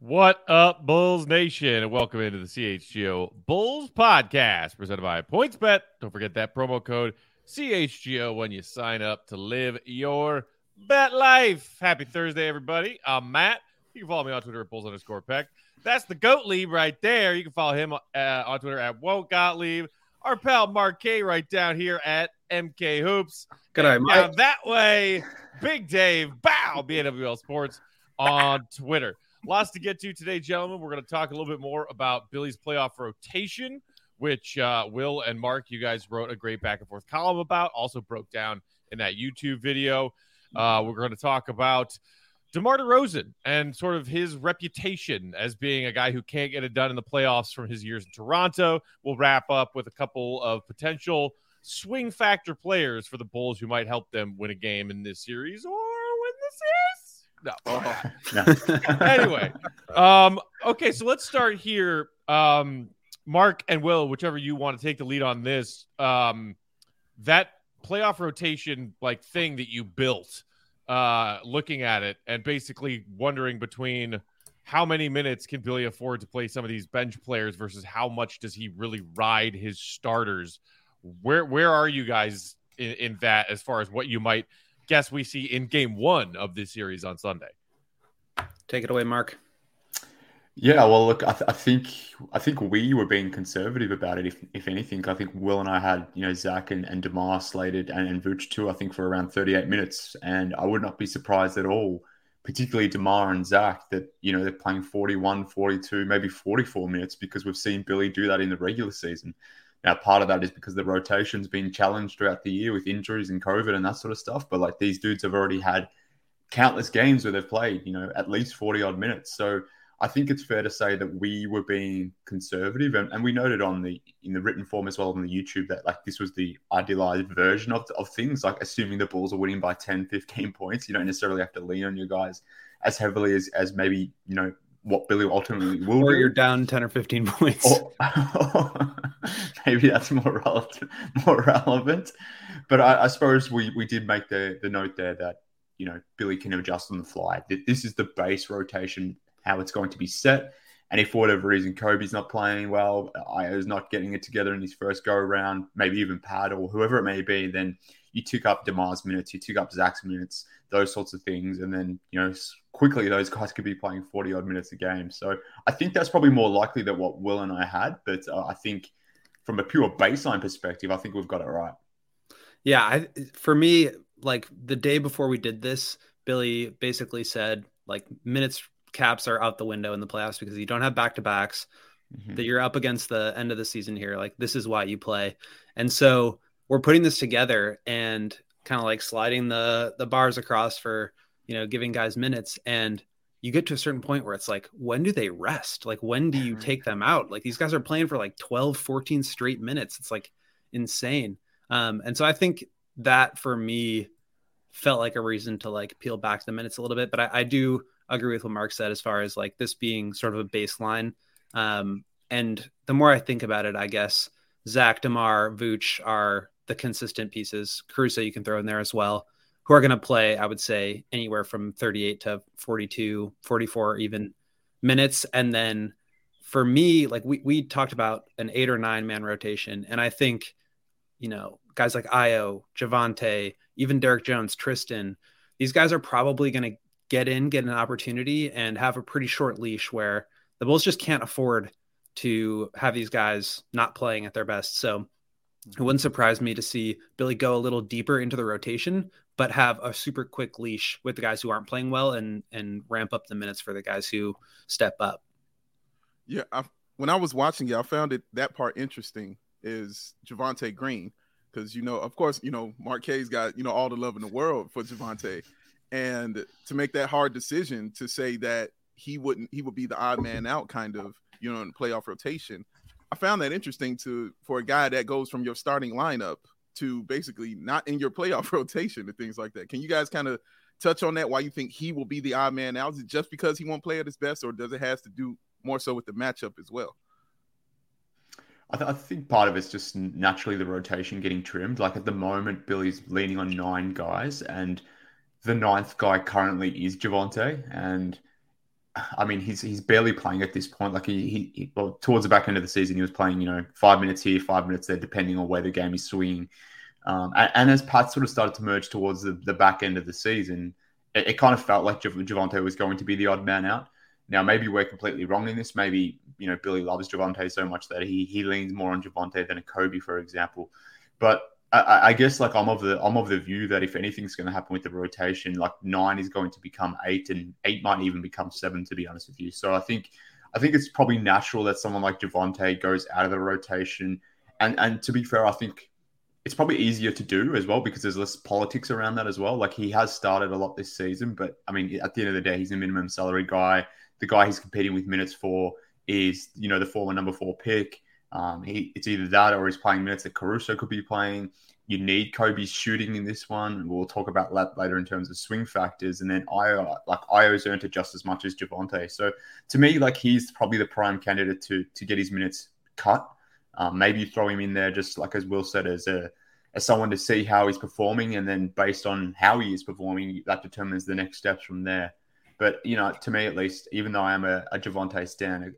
What up, Bulls Nation, and welcome into the CHGO Bulls Podcast, presented by PointsBet. Don't forget that promo code CHGO when you sign up to live your bet life. Happy Thursday, everybody. I'm Matt. You can follow me on Twitter at Bulls_Peck. That's the Gottlieb right there. You can follow him on Twitter at Gottlieb. Our pal Mark K right down here at MK Hoops. Good night, Mike. Down that way, Big Dave, BNWL Sports on Twitter. Lots to get to today, gentlemen. We're going to talk a little bit more about Billy's playoff rotation, which Will and Mark, you guys wrote a great back and forth column about, also broke down in that YouTube video. We're going to talk about DeMar DeRozan and sort of his reputation as being a guy who can't get it done in the playoffs from his years in Toronto. We'll wrap up with a couple of potential swing factor players for the Bulls who might help them win a game in this series or win the series. No. Anyway, okay, so let's start here. Mark and Will, whichever you want to take the lead on this, that playoff rotation thing that you built, looking at it and basically wondering between how many minutes can Billy afford to play some of these bench players versus how much does he really ride his starters? Where are you guys in that as far as what you might guess we see in game one of this series on Sunday? Take it away, Mark. Yeah, well, look, I think we were being conservative about it. If anything, I think Will and I had Zach and DeMar slated and Vooch too. I think for around 38 minutes, and I would not be surprised at all, particularly DeMar and Zach, that they're playing 41, 42, maybe 44 minutes because we've seen Billy do that in the regular season. Now, part of that is because the rotation's been challenged throughout the year with injuries and COVID and that sort of stuff. But these dudes have already had countless games where they've played, at least 40 odd minutes. So I think it's fair to say that we were being conservative, and we noted in the written form as well on the YouTube that this was the idealized version of things, assuming the Bulls are winning by 10, 15 points. You don't necessarily have to lean on your guys as heavily as maybe, what Billy ultimately will do. Or you're down 10 or 15 points. Maybe that's more relevant. But I suppose we did make the note there that, Billy can adjust on the fly. This is the base rotation, how it's going to be set. And if for whatever reason Kobe's not playing well, Io's not getting it together in his first go-around, maybe even Pat or whoever it may be, then you tick up DeMar's minutes, you tick up Zach's minutes, those sorts of things. And then, quickly those guys could be playing 40-odd minutes a game. So I think that's probably more likely than what Will and I had. But I think from a pure baseline perspective, I think we've got it right. Yeah, for me, the day before we did this, Billy basically said, minutes caps are out the window in the playoffs because you don't have back-to-backs, that you're up against the end of the season here. This is why you play. And so we're putting this together and kind of sliding the bars across for, giving guys minutes. And you get to a certain point where it's when do they rest? When do you take them out? These guys are playing for 12, 14 straight minutes. It's insane. And so I think that for me felt like a reason to peel back the minutes a little bit. But I do agree with what Mark said as far as this being sort of a baseline. And the more I think about it, I guess Zach, DeMar, Vooch are the consistent pieces. Caruso you can throw in there as well, who are going to play, I would say, anywhere from 38 to 42, 44 even minutes. And then for me, we talked about an 8 or 9 man rotation. And I think, guys like Io, Javonte, even Derek Jones, Tristan, these guys are probably going to get an opportunity and have a pretty short leash where the Bulls just can't afford to have these guys not playing at their best. So it wouldn't surprise me to see Billy go a little deeper into the rotation, but have a super quick leash with the guys who aren't playing well and ramp up the minutes for the guys who step up. Yeah, when I was watching it, I found that part interesting is Javonte Green. Because, of course, Mark K's got, all the love in the world for Javonte. And to make that hard decision to say that he would be the odd man out kind of, in the playoff rotation. I found that interesting for a guy that goes from your starting lineup to basically not in your playoff rotation and things like that. Can you guys kind of touch on that? Why you think he will be the odd man out? Is it just because he won't play at his best, or does it have to do more so with the matchup as well? I think part of it's just naturally the rotation getting trimmed. At the moment, Billy's leaning on 9 guys, and the 9th guy currently is Javonte. And I mean, he's barely playing at this point. Like well, towards the back end of the season, he was playing, 5 minutes here, 5 minutes there, depending on where the game is swinging. And as Pat sort of started to merge towards the back end of the season, it kind of felt like Javonte was going to be the odd man out. Now, maybe we're completely wrong in this. Maybe, Billy loves Javonte so much that he leans more on Javonte than a Kobe, for example. But I guess like I'm of the view that if anything's going to happen with the rotation, like 9 is going to become 8, and 8 might even become 7, to be honest with you. So I think it's probably natural that someone like Javonte goes out of the rotation. And to be fair, I think it's probably easier to do as well because there's less politics around that as well. Like he has started a lot this season, but I mean, at the end of the day, he's a minimum salary guy. The guy he's competing with minutes for is, the former number 4 pick. It's either that or he's playing minutes that Caruso could be playing. You need Kobe's shooting in this one. We'll talk about that later in terms of swing factors. And then Io's earned it just as much as Javonte. So to me, like he's probably the prime candidate to get his minutes cut. Maybe throw him in there just like as Will said, as someone to see how he's performing. And then based on how he is performing, that determines the next steps from there. But, to me at least, even though I am a Javonte stan,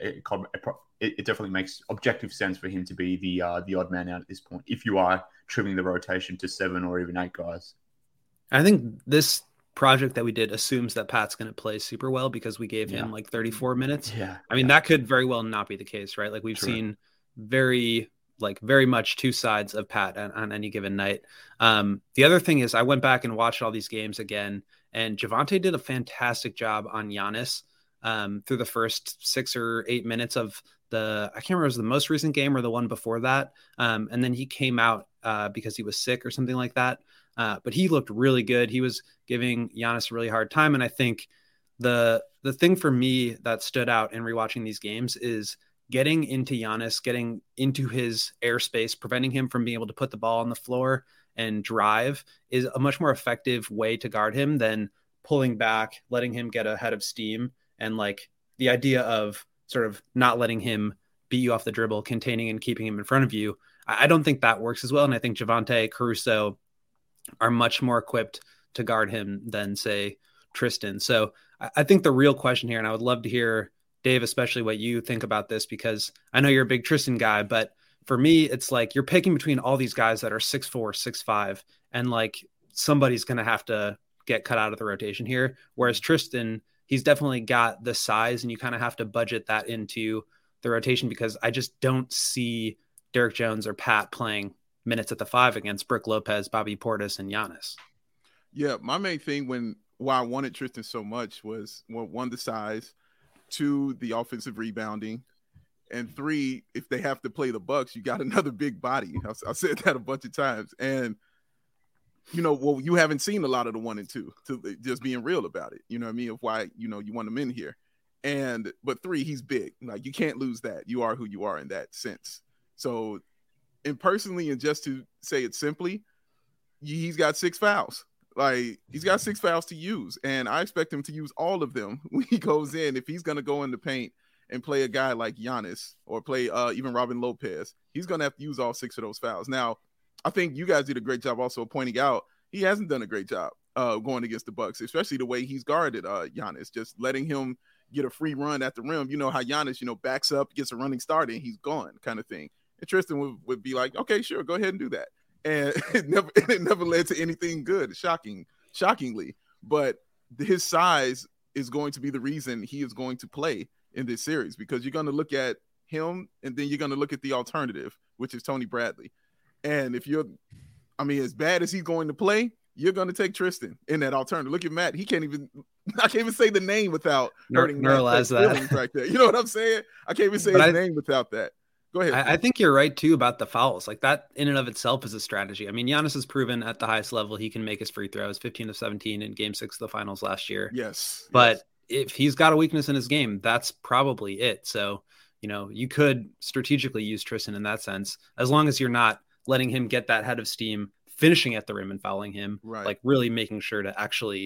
it definitely makes objective sense for him to be the odd man out at this point, if you are trimming the rotation to 7 or even 8 guys. I think this project that we did assumes that Pat's going to play super well because we gave him like 34 minutes. Yeah. I mean, that could very well not be the case, right? Like we've seen very much two sides of Pat on any given night. The other thing is I went back and watched all these games again, and Javonte did a fantastic job on Giannis through the first 6 or 8 minutes of I can't remember if it was the most recent game or the one before that. And then he came out because he was sick or something like that. But he looked really good. He was giving Giannis a really hard time. And I think the thing for me that stood out in rewatching these games is getting into Giannis, getting into his airspace, preventing him from being able to put the ball on the floor and drive is a much more effective way to guard him than pulling back, letting him get ahead of steam. And like the idea of sort of not letting him beat you off the dribble, containing and keeping him in front of you. I don't think that works as well. And I think Javonte, Caruso are much more equipped to guard him than say Tristan. So I think the real question here, and I would love to hear Dave, especially what you think about this, because I know you're a big Tristan guy, but for me, it's like you're picking between all these guys that are 6'4", 6'5", and like somebody's going to have to get cut out of the rotation here. Whereas Tristan, he's definitely got the size, and you kind of have to budget that into the rotation because I just don't see Derek Jones or Pat playing minutes at the 5 against Brook Lopez, Bobby Portis, and Giannis. Yeah, my main thing why I wanted Tristan so much was, well, 1, the size, 2, the offensive rebounding, and 3, if they have to play the Bucks, you got another big body. I said that a bunch of times. And, you haven't seen a lot of the 1 and 2, to just being real about it. You know what I mean? Of why, you want him in here. But 3, he's big. Like, you can't lose that. You are who you are in that sense. So, and personally, and just to say it simply, he's got 6 fouls. Like, he's got 6 fouls to use, and I expect him to use all of them when he goes in. If he's going to go in the paint and play a guy like Giannis or play even Robin Lopez, he's going to have to use all 6 of those fouls. Now, I think you guys did a great job also pointing out he hasn't done a great job going against the Bucks, especially the way he's guarded Giannis, just letting him get a free run at the rim. You know how Giannis, backs up, gets a running start, and he's gone kind of thing. And Tristan would be like, okay, sure, go ahead and do that. And it never led to anything good, shockingly. But his size is going to be the reason he is going to play in this series, because you're going to look at him and then you're going to look at the alternative, which is Tony Bradley. And as bad as he's going to play, you're going to take Tristan in that alternative. Look at Matt. I can't even say the name without hurting neuralize that right there. You know what I'm saying? I can't even say his name without that. Go ahead. I think you're right too about the fouls. Like that in and of itself is a strategy. I mean, Giannis has proven at the highest level he can make his free throws, 15 of 17 in Game 6 of the finals last year. Yes. But if he's got a weakness in his game, that's probably it. So, you could strategically use Tristan in that sense, as long as you're not letting him get that head of steam, finishing at the rim and fouling him, right. Like really making sure to actually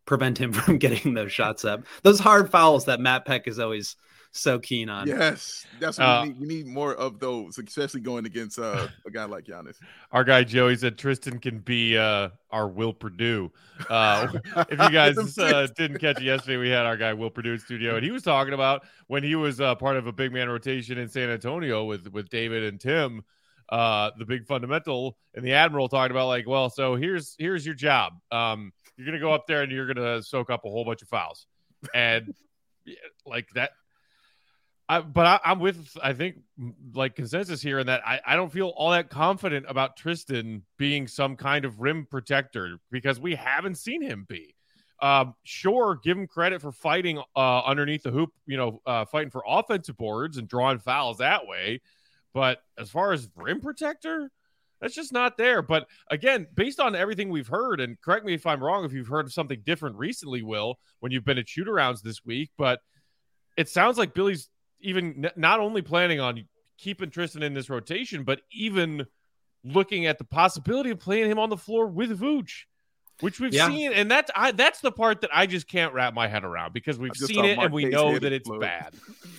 prevent him from getting those shots up. Those hard fouls that Matt Peck is always so keen on. Yes, that's what we need. We need more of those, especially going against a guy like Giannis. Our guy Joey said Tristan can be our Will Purdue. If you guys didn't catch it yesterday, we had our guy Will Purdue in studio, and he was talking about when he was part of a big man rotation in San Antonio with David and Tim, the big fundamental, and the Admiral talking about like, well, so here's your job. You're gonna go up there and you're gonna soak up a whole bunch of fouls, and like that. I'm with, I think, like consensus here in that I don't feel all that confident about Tristan being some kind of rim protector because we haven't seen him be. Sure, give him credit for fighting underneath the hoop, fighting for offensive boards and drawing fouls that way. But as far as rim protector, that's just not there. But again, based on everything we've heard, and correct me if I'm wrong, if you've heard of something different recently, Will, when you've been at shoot-arounds this week, but it sounds like Billy's even not only planning on keeping Tristan in this rotation, but even looking at the possibility of playing him on the floor with Vooch, which we've seen. And that's the part that I just can't wrap my head around because we've seen it and we know that it's bad.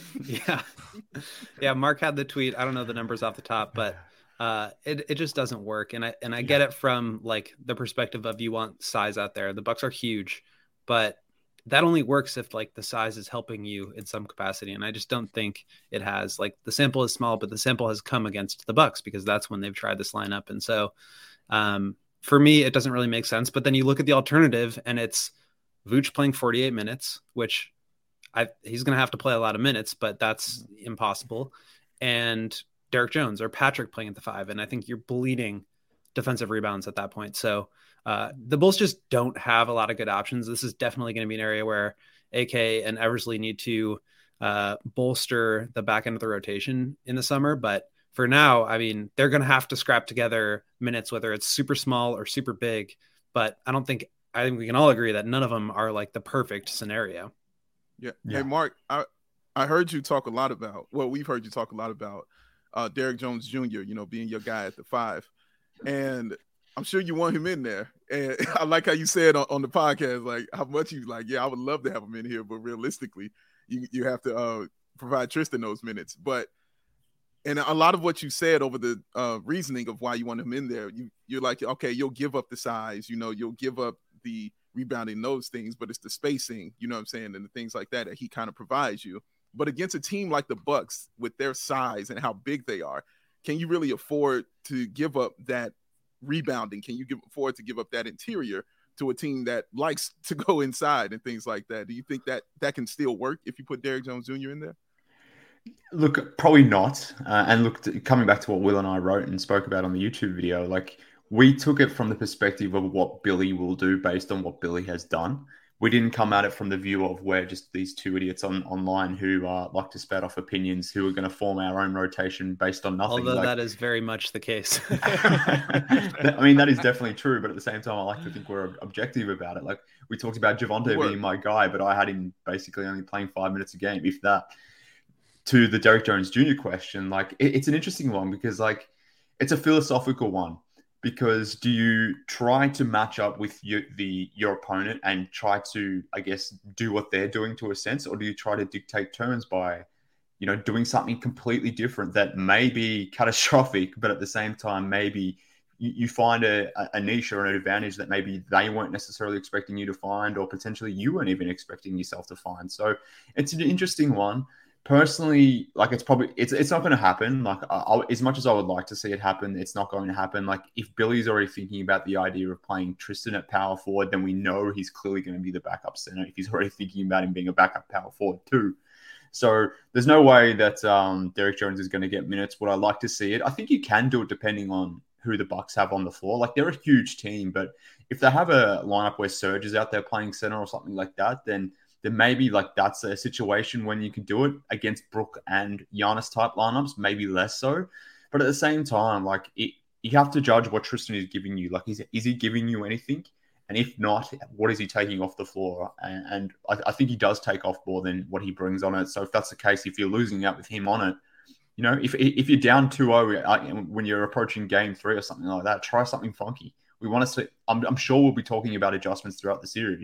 Yeah. Mark had the tweet. I don't know the numbers off the top, but it just doesn't work. And I get it from like the perspective of you want size out there. The Bucks are huge, but that only works if like the size is helping you in some capacity. And I just don't think it has. Like the sample is small, but the sample has come against the Bucks because that's when they've tried this lineup. And so for me, it doesn't really make sense. But then you look at the alternative and it's Vooch playing 48 minutes, which he's going to have to play a lot of minutes, but that's impossible. And Derek Jones or Patrick playing at the 5. And I think you're bleeding defensive rebounds at that point. So the Bulls just don't have a lot of good options. This is definitely going to be an area where AK and Eversley need to bolster the back end of the rotation in the summer. But for now, I mean, they're going to have to scrap together minutes, whether it's super small or super big. But I think we can all agree that none of them are like the perfect scenario. Yeah. Hey, Mark, I heard you talk a lot about, we've heard you talk a lot about Derek Jones Jr., being your guy at the 5. And I'm sure you want him in there. And I like how you said on the podcast, like how much you like, I would love to have him in here, but realistically, you have to provide Tristan those minutes. And a lot of what you said over the reasoning of why you want him in there, you're like, okay, you'll give up the size, you'll give up the rebounding, those things, but it's the spacing, you know what I'm saying, and the things like that he kind of provides you. But against a team like the Bucks with their size and how big they are, can you really afford to give up that rebounding? Can you afford to give up that interior to a team that likes to go inside and things like that? Do you think that can still work if you put Derek Jones Jr. in there? Look, probably not. And look, coming back to what Will and I wrote and spoke about on the YouTube video, like we took it from the perspective of what Billy will do based on what Billy has done. We didn't come at it from the view of we're just these two idiots online who like to spout off opinions, who are going to form our own rotation based on nothing. Although that is very much the case. I mean, that is definitely true. But at the same time, I like to think we're objective about it. Like we talked about Javonte being my guy, but I had him basically only playing 5 minutes a game, if that. To the Derek Jones Jr. question, like it's an interesting one because like it's a philosophical one. Because do you try to match up with your opponent and try to, I guess, do what they're doing to a sense, or do you try to dictate terms by, doing something completely different that may be catastrophic, but at the same time maybe you find a niche or an advantage that maybe they weren't necessarily expecting you to find, or potentially you weren't even expecting yourself to find. So it's an interesting one. Personally, like it's not going to happen. Like as much as I would like to see it happen, it's not going to happen. Like if Billy's already thinking about the idea of playing Tristan at power forward, then we know he's clearly going to be the backup center. If he's already thinking about him being a backup power forward too, so there's no way that Derek Jones is going to get minutes. Would I like to see it? I think you can do it depending on who the Bucks have on the floor. Like they're a huge team, but if they have a lineup where Serge is out there playing center or something like that, then maybe like that's a situation when you can do it against Brook and Giannis type lineups, maybe less so. But at the same time, like you have to judge what Tristan is giving you. Like, is he giving you anything? And if not, what is he taking off the floor? And I think he does take off more than what he brings on it. So if that's the case, if you're losing out with him on it, if you're down 2-0 when you're approaching game 3 or something like that, try something funky. We want to see. I'm sure we'll be talking about adjustments throughout the series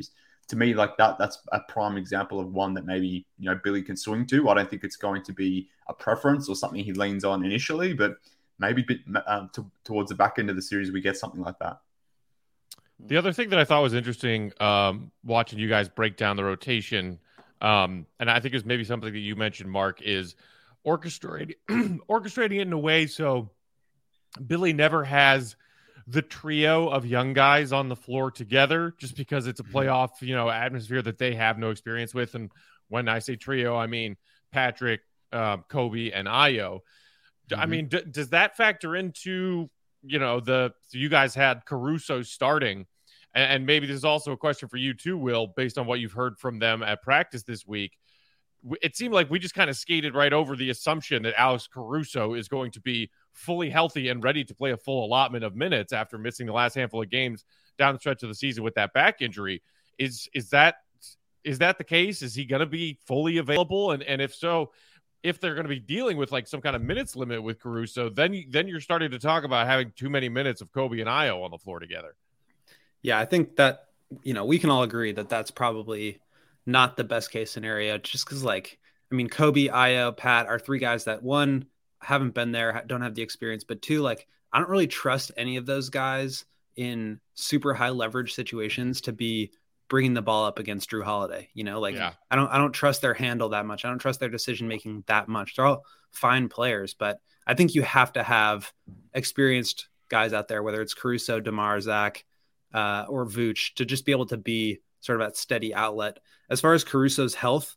to me, like that's a prime example of one that maybe, Billy can swing to. I don't think it's going to be a preference or something he leans on initially, but maybe towards the back end of the series, we get something like that. The other thing that I thought was interesting, watching you guys break down the rotation, and I think it was maybe something that you mentioned, Mark, is orchestrating it in a way so Billy never has the trio of young guys on the floor together, just because it's a playoff, atmosphere that they have no experience with. And when I say trio, I mean Patrick, Kobe, and Ayo. I mean, does that factor into, so you guys had Caruso starting, and maybe this is also a question for you too, Will, based on what you've heard from them at practice this week. It seemed like we just kind of skated right over the assumption that Alex Caruso is going to be fully healthy and ready to play a full allotment of minutes after missing the last handful of games down the stretch of the season with that back injury. Is that the case? Is he going to be fully available? And if so, if they're going to be dealing with like some kind of minutes limit with Caruso, then you're starting to talk about having too many minutes of Kobe and Ayo on the floor together. Yeah, I think that, we can all agree that that's probably not the best case scenario, just because Kobe, Ayo, Pat are three guys that, one, haven't been there, don't have the experience, but two, I don't really trust any of those guys in super high leverage situations to be bringing the ball up against Drew Holiday. I don't trust their handle that much. I don't trust their decision making that much. They're all fine players, but I think you have to have experienced guys out there, whether it's Caruso, DeMar, Zach, or Vooch, to just be able to be sort of that steady outlet. As far as Caruso's health,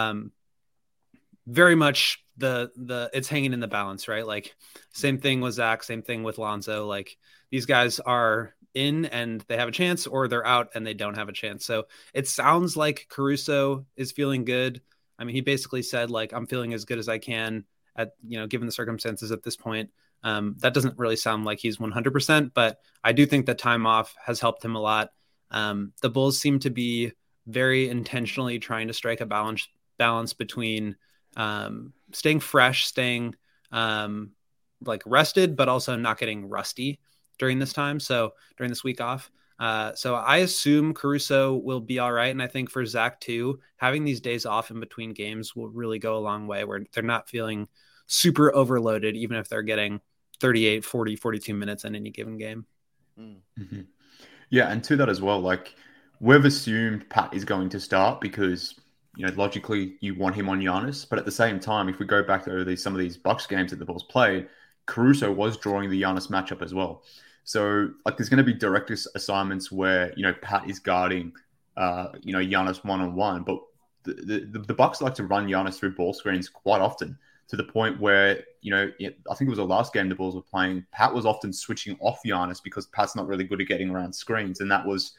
very much it's hanging in the balance, right? Same thing with Zach, same thing with Lonzo. These guys are in and they have a chance, or they're out and they don't have a chance. So it sounds like Caruso is feeling good. I mean, he basically said, I'm feeling as good as I can at, given the circumstances at this point. That doesn't really sound like he's 100%, but I do think that time off has helped him a lot. The Bulls seem to be very intentionally trying to strike a balance between staying fresh, staying rested, but also not getting rusty during this time. So during this week off. So I assume Caruso will be all right. And I think for Zach too, having these days off in between games will really go a long way, where they're not feeling super overloaded, even if they're getting 38, 40, 42 minutes in any given game. Mm-hmm. Yeah. And to that as well, we've assumed Pat is going to start because, logically you want him on Giannis. But at the same time, if we go back to some of these Bucks games that the Bulls played, Caruso was drawing the Giannis matchup as well. So there's going to be direct assignments where, Pat is guarding, Giannis one-on-one, but the Bucks like to run Giannis through ball screens quite often, to the point where, I think it was the last game the Bulls were playing, Pat was often switching off Giannis because Pat's not really good at getting around screens. And that was,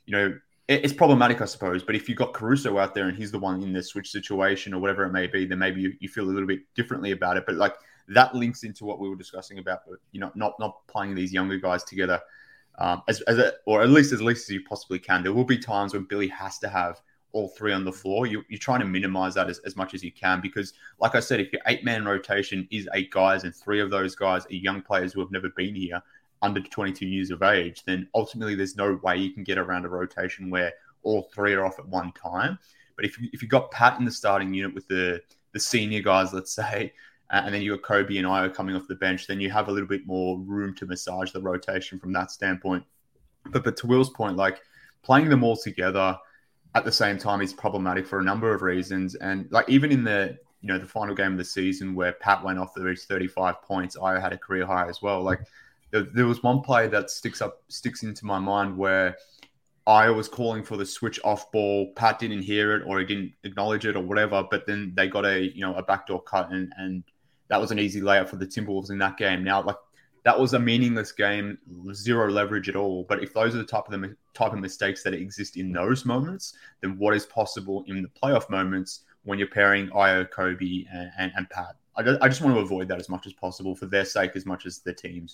it's problematic, I suppose. But if you've got Caruso out there and he's the one in the switch situation or whatever it may be, then maybe you feel a little bit differently about it. But that links into what we were discussing about, not playing these younger guys together or at least as you possibly can. There will be times when Billy has to have all three on the floor. You're trying to minimize that as much as you can, because like I said, if your 8-man rotation is 8 guys and 3 of those guys are young players who have never been here, under 22 years of age, then ultimately there's no way you can get around a rotation where all 3 are off at one time. But if you got Pat in the starting unit with the senior guys, let's say, and then you got Kobe and Ayo coming off the bench, then you have a little bit more room to massage the rotation from that standpoint. But to Will's point, playing them all together at the same time is problematic for a number of reasons. And even in the the final game of the season where Pat went off, there was 35 points. Ayo had a career high as well. There was one play that sticks into my mind where Ayo was calling for the switch off ball. Pat didn't hear it, or he didn't acknowledge it, or whatever. But then they got a backdoor cut, and that was an easy layup for the Timberwolves in that game. Now, that was a meaningless game, zero leverage at all. But if those are the type of mistakes that exist in those moments, then what is possible in the playoff moments when you're pairing Ayo, Kobe, and Pat? I just want to avoid that as much as possible for their sake as much as the team's.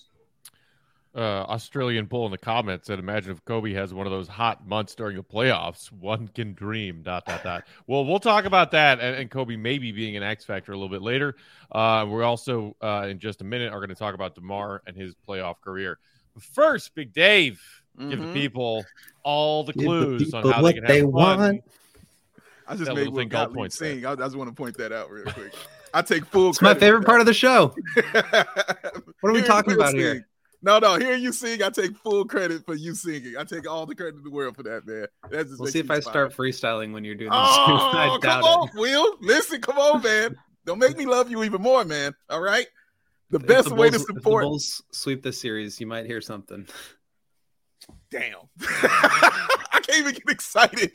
Australian Bull in the comments said, imagine if Kobe has one of those hot months during the playoffs. One can dream, ... Well, we'll talk about that and Kobe maybe being an X factor a little bit later. We're also, in just a minute, are going to talk about DeMar and his playoff career. But first, Big Dave, Give the people all the Give clues the on people how what they can have they fun. want. I just That made little Will thing Gold Gottlieb points there. sing. I just want to point that out real quick. I take full It's my credit favorite for part of the show. that. What are we Hearing talking Will about sing- here? No, hearing you sing, I take full credit for you singing. I take all the credit in the world for that, man. That just We'll makes see if me I smile. start freestyling when you're doing this. Oh, I come doubt on, it. Will. Listen, come on, man. Don't make me love you even more, man. All right. The If best the way to Bulls- if the support. Bulls sweep this series, you might hear something. Damn. I can't even get excited.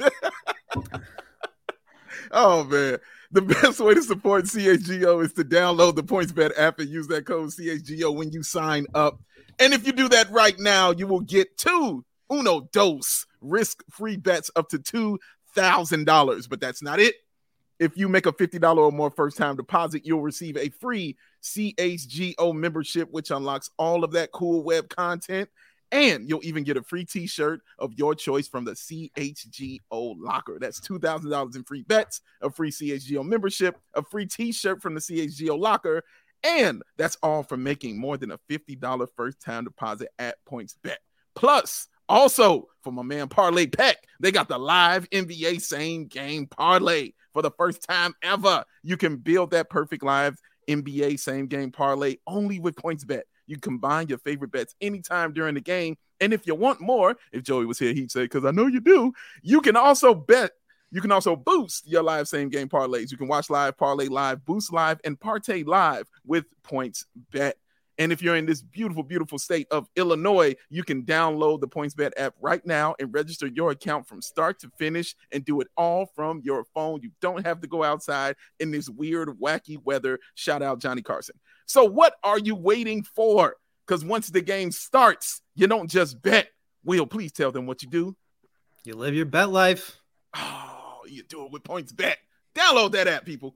Oh, man. The best way to support CHGO is to download the PointsBet app and use that code CHGO when you sign up. And if you do that right now, you will get uno dos risk-free bets up to $2,000. But that's not it. If you make a $50 or more first-time deposit, you'll receive a free CHGO membership, which unlocks all of that cool web content. And you'll even get a free t-shirt of your choice from the CHGO locker. That's $2,000 in free bets, a free CHGO membership, a free t-shirt from the CHGO locker. And that's all for making more than a $50 first-time deposit at PointsBet. Plus, also, for my man Parlay Peck, they got the live NBA same game parlay. For the first time ever, you can build that perfect live NBA same game parlay only with PointsBet. You combine your favorite bets anytime during the game. And if you want more, if Joey was here, he'd say, because I know you do, you can also bet. You can also boost your live same game parlays. You can watch live, parlay live, boost live, and partay live with PointsBet. And if you're in this beautiful, beautiful state of Illinois, you can download the PointsBet app right now and register your account from start to finish and do it all from your phone. You don't have to go outside in this weird, wacky weather. Shout out Johnny Carson. So what are you waiting for? Because once the game starts, you don't just bet. Will, please tell them what you do. You live your bet life. Oh, you do it with PointsBet. Download that app, people.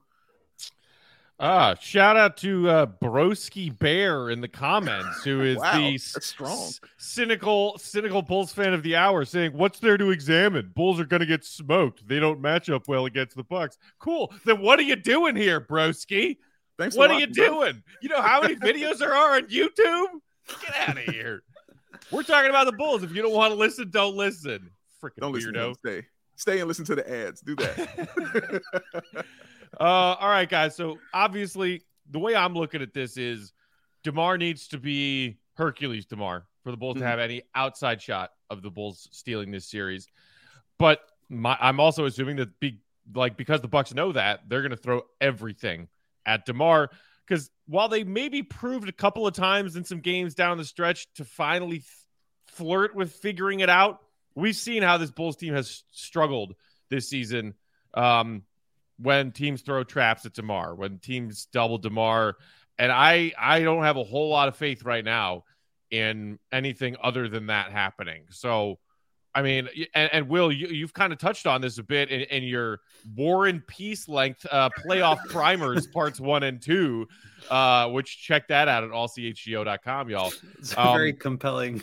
Shout out to Broski Bear in the comments, who is Wow, the that's strong. cynical Bulls fan of the hour, saying, "What's there to examine? Bulls are going to get smoked. They don't match up well against the Bucks." Cool. Then what are you doing here, Broski? Thanks for What are you watching, bro. doing? You know how many videos there are on YouTube? Get out of here. We're talking about the Bulls. If you don't want to listen, don't listen. Freaking Don't listen to weirdo. them. Stay and listen to the ads. Do that. All right, guys. So obviously, the way I'm looking at this is DeMar needs to be Hercules DeMar for the Bulls to have any outside shot of the Bulls stealing this series. But I'm also assuming that because the Bucks know that, they're going to throw everything at DeMar. Because while they maybe proved a couple of times in some games down the stretch to finally flirt with figuring it out, we've seen how this Bulls team has struggled this season. When teams throw traps at DeMar, when teams double DeMar. And I don't have a whole lot of faith right now in anything other than that happening. So, I mean, and Will, you've kind of touched on this a bit in your War and Peace length playoff primers parts 1 and 2, which check that out at allchgo.com, y'all. It's very compelling.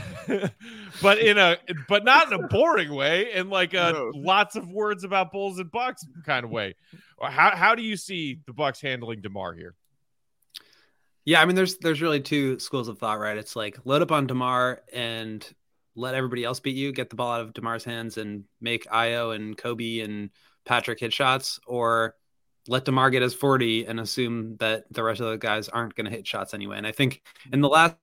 but not in a boring way, in like No. lots of words about Bulls and Bucks kind of way. How do you see the Bucks handling DeMar here? Yeah, I mean, there's really two schools of thought, right? It's like load up on DeMar and let everybody else beat you, get the ball out of DeMar's hands and make Io and Kobe and Patrick hit shots, or let DeMar get his 40 and assume that the rest of the guys aren't going to hit shots anyway. And I think in the last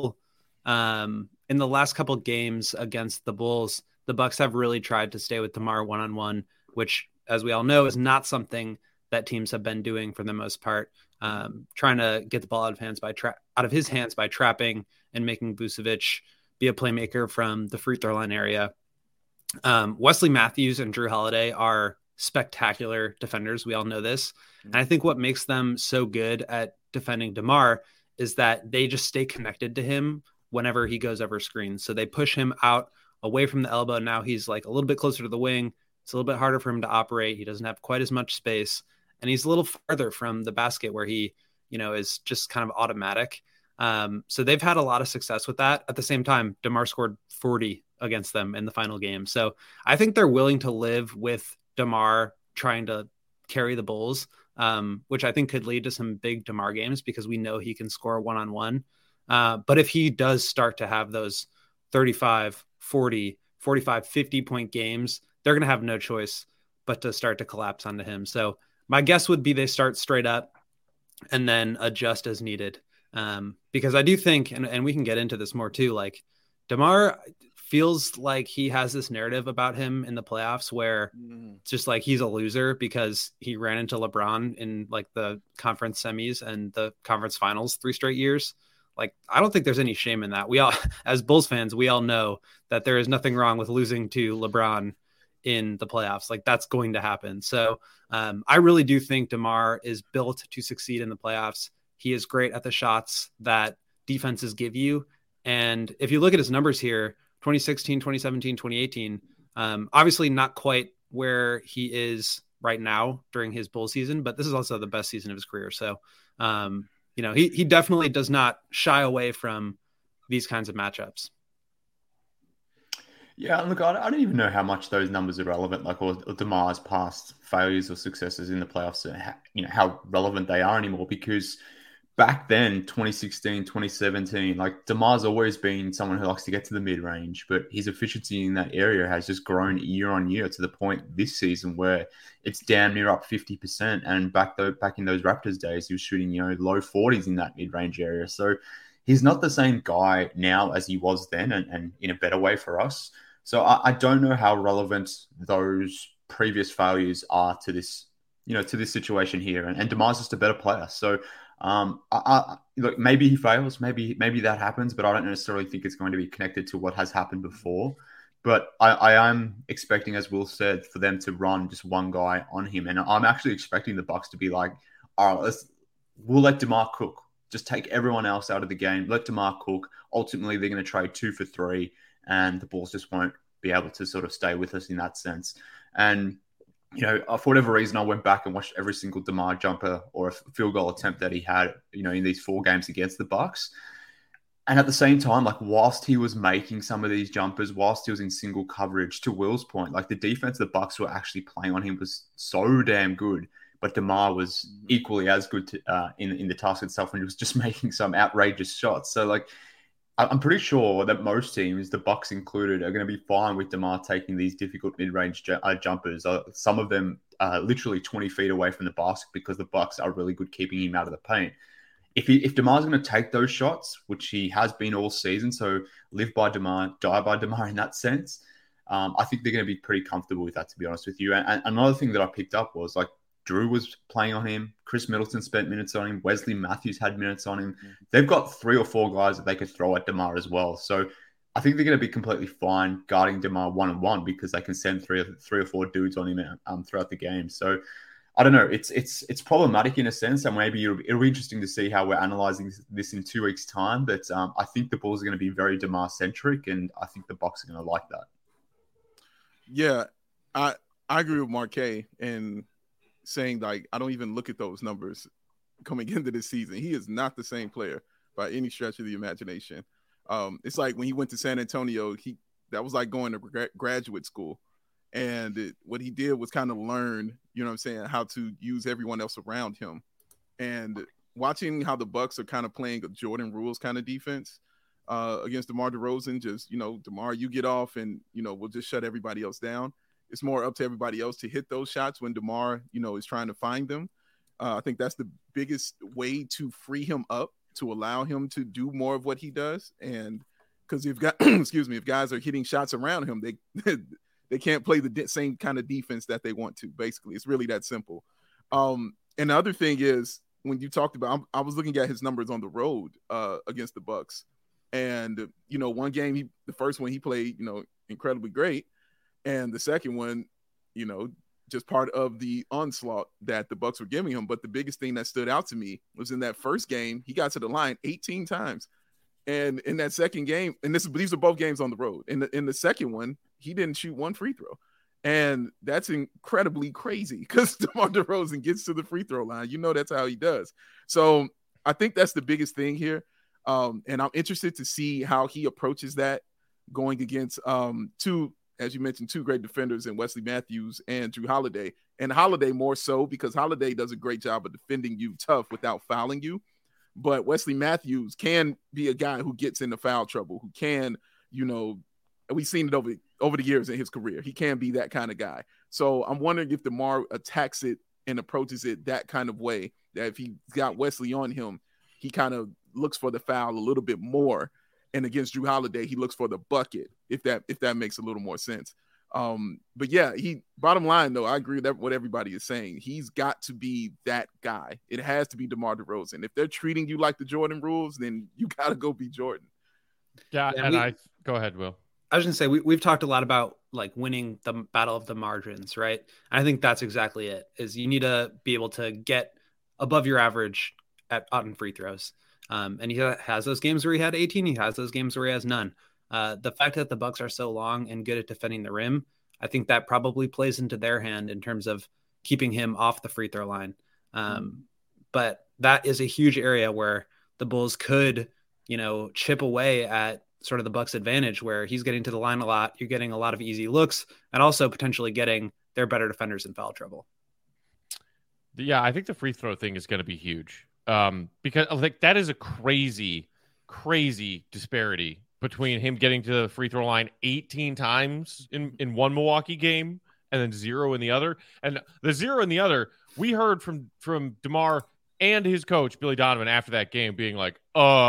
couple games against the Bulls, the Bucks have really tried to stay with DeMar one-on-one, which, as we all know, is not something that teams have been doing for the most part. Trying to get the ball out of his hands by trapping and making Vucevic be a playmaker from the free throw line area. Wesley Matthews and Drew Holiday are spectacular defenders. We all know this. And I think what makes them so good at defending DeMar is that they just stay connected to him whenever he goes over screens. So they push him out away from the elbow. Now he's like a little bit closer to the wing. It's a little bit harder for him to operate. He doesn't have quite as much space. And he's a little farther from the basket where he, is just kind of automatic. So they've had a lot of success with that. At the same time, DeMar scored 40 against them in the final game. So I think they're willing to live with DeMar trying to carry the Bulls, which I think could lead to some big DeMar games because we know he can score one-on-one. But if he does start to have those 35, 40, 45, 50-point games, they're going to have no choice but to start to collapse onto him. So my guess would be they start straight up and then adjust as needed. Because I do think, and we can get into this more too, like DeMar feels like he has this narrative about him in the playoffs where it's just like he's a loser because he ran into LeBron in like the conference semis and the conference finals 3 straight years. Like, I don't think there's any shame in that. We all, as Bulls fans, we all know that there is nothing wrong with losing to LeBron in the playoffs. Like, that's going to happen. So I really do think DeMar is built to succeed in the playoffs. He is great at the shots that defenses give you. And if you look at his numbers here, 2016, 2017, 2018, obviously not quite where he is right now during his Bull season, but this is also the best season of his career. So, he definitely does not shy away from these kinds of matchups. Yeah, look, I don't even know how much those numbers are relevant, like or DeMar's past failures or successes in the playoffs, how relevant they are anymore, because back then, 2016, 2017, like DeMar's always been someone who likes to get to the mid-range, but his efficiency in that area has just grown year on year to the point this season where it's damn near up 50%. And back in those Raptors days, he was shooting, low 40s in that mid-range area. So he's not the same guy now as he was then, and in a better way for us. So I don't know how relevant those previous failures are to this, to this situation here. And DeMar's just a better player. So look, maybe he fails, maybe that happens, but I don't necessarily think it's going to be connected to what has happened before. But I am expecting, as Will said, for them to run just one guy on him, and I'm actually expecting the Bucks to be like, all right, we'll let DeMar cook, just take everyone else out of the game, let DeMar cook. Ultimately, they're going to trade 2 for 3, and the Bulls just won't be able to sort of stay with us in that sense. And for whatever reason, I went back and watched every single DeMar jumper or a field goal attempt that he had, in these 4 games against the Bucks. And at the same time, like, whilst he was making some of these jumpers, whilst he was in single coverage, to Will's point, like, the defense the Bucks were actually playing on him was so damn good. But DeMar was equally as good in the task itself, and he was just making some outrageous shots. So, like, I'm pretty sure that most teams, the Bucks included, are going to be fine with DeMar taking these difficult mid-range jumpers. Some of them literally 20 feet away from the basket because the Bucks are really good keeping him out of the paint. If DeMar's going to take those shots, which he has been all season, so live by DeMar, die by DeMar in that sense, I think they're going to be pretty comfortable with that, to be honest with you. And another thing that I picked up was, like, Drew was playing on him. Chris Middleton spent minutes on him. Wesley Matthews had minutes on him. They've got 3 or 4 guys that they could throw at DeMar as well. So I think they're going to be completely fine guarding DeMar one-on-one because they can send three or four dudes on him throughout the game. So I don't know. It's problematic in a sense, and maybe it'll be interesting to see how we're analyzing this in 2 weeks' time. But I think the Bulls are going to be very DeMar-centric, and I think the Bucks are going to like that. Yeah, I agree with Marquet and saying, like, I don't even look at those numbers coming into this season. He is not the same player by any stretch of the imagination. It's like when he went to San Antonio, that was like going to graduate school. And what he did was kind of learn, how to use everyone else around him. And watching how the Bucks are kind of playing a Jordan Rules kind of defense against DeMar DeRozan, just, DeMar, you get off and, we'll just shut everybody else down. It's more up to everybody else to hit those shots when DeMar, is trying to find them. I think that's the biggest way to free him up, to allow him to do more of what he does. And because if guys are hitting shots around him, they can't play the same kind of defense that they want to. Basically, it's really that simple. And the other thing is, when you talked about, I was looking at his numbers on the road against the Bucks, and one game, the first one he played, incredibly great. And the second one, just part of the onslaught that the Bucks were giving him. But the biggest thing that stood out to me was in that first game, he got to the line 18 times. And in that second game, and these are both games on the road. In the second one, he didn't shoot 1 free throw. And that's incredibly crazy because DeMar DeRozan gets to the free throw line. That's how he does. So I think that's the biggest thing here. And I'm interested to see how he approaches that going against as you mentioned, 2 great defenders in Wesley Matthews and Drew Holiday. And Holiday more so because Holiday does a great job of defending you tough without fouling you. But Wesley Matthews can be a guy who gets into foul trouble, who can, we've seen it over the years in his career. He can be that kind of guy. So I'm wondering if DeMar attacks it and approaches it that kind of way, that if he got Wesley on him, he kind of looks for the foul a little bit more. And against Jrue Holiday, he looks for the bucket, if that makes a little more sense. But yeah, bottom line though, I agree with what everybody is saying. He's got to be that guy. It has to be DeMar DeRozan. If they're treating you like the Jordan rules, then you got to go be Jordan. Yeah, go ahead, Will. I was going to say, we've talked a lot about like winning the battle of the margins, right? And I think that's exactly it, is you need to be able to get above your average on free throws. And he has those games where he had 18. He has those games where he has none. The fact that the Bucks are so long and good at defending the rim, I think that probably plays into their hand in terms of keeping him off the free throw line. But that is a huge area where the Bulls could, chip away at sort of the Bucks' advantage, where he's getting to the line a lot. You're getting a lot of easy looks and also potentially getting their better defenders in foul trouble. Yeah, I think the free throw thing is going to be huge. Because like that is a crazy disparity between him getting to the free throw line 18 times in one Milwaukee game and then 0 in the other. And the 0 in the other, we heard from DeMar and his coach, Billy Donovan, after that game being like,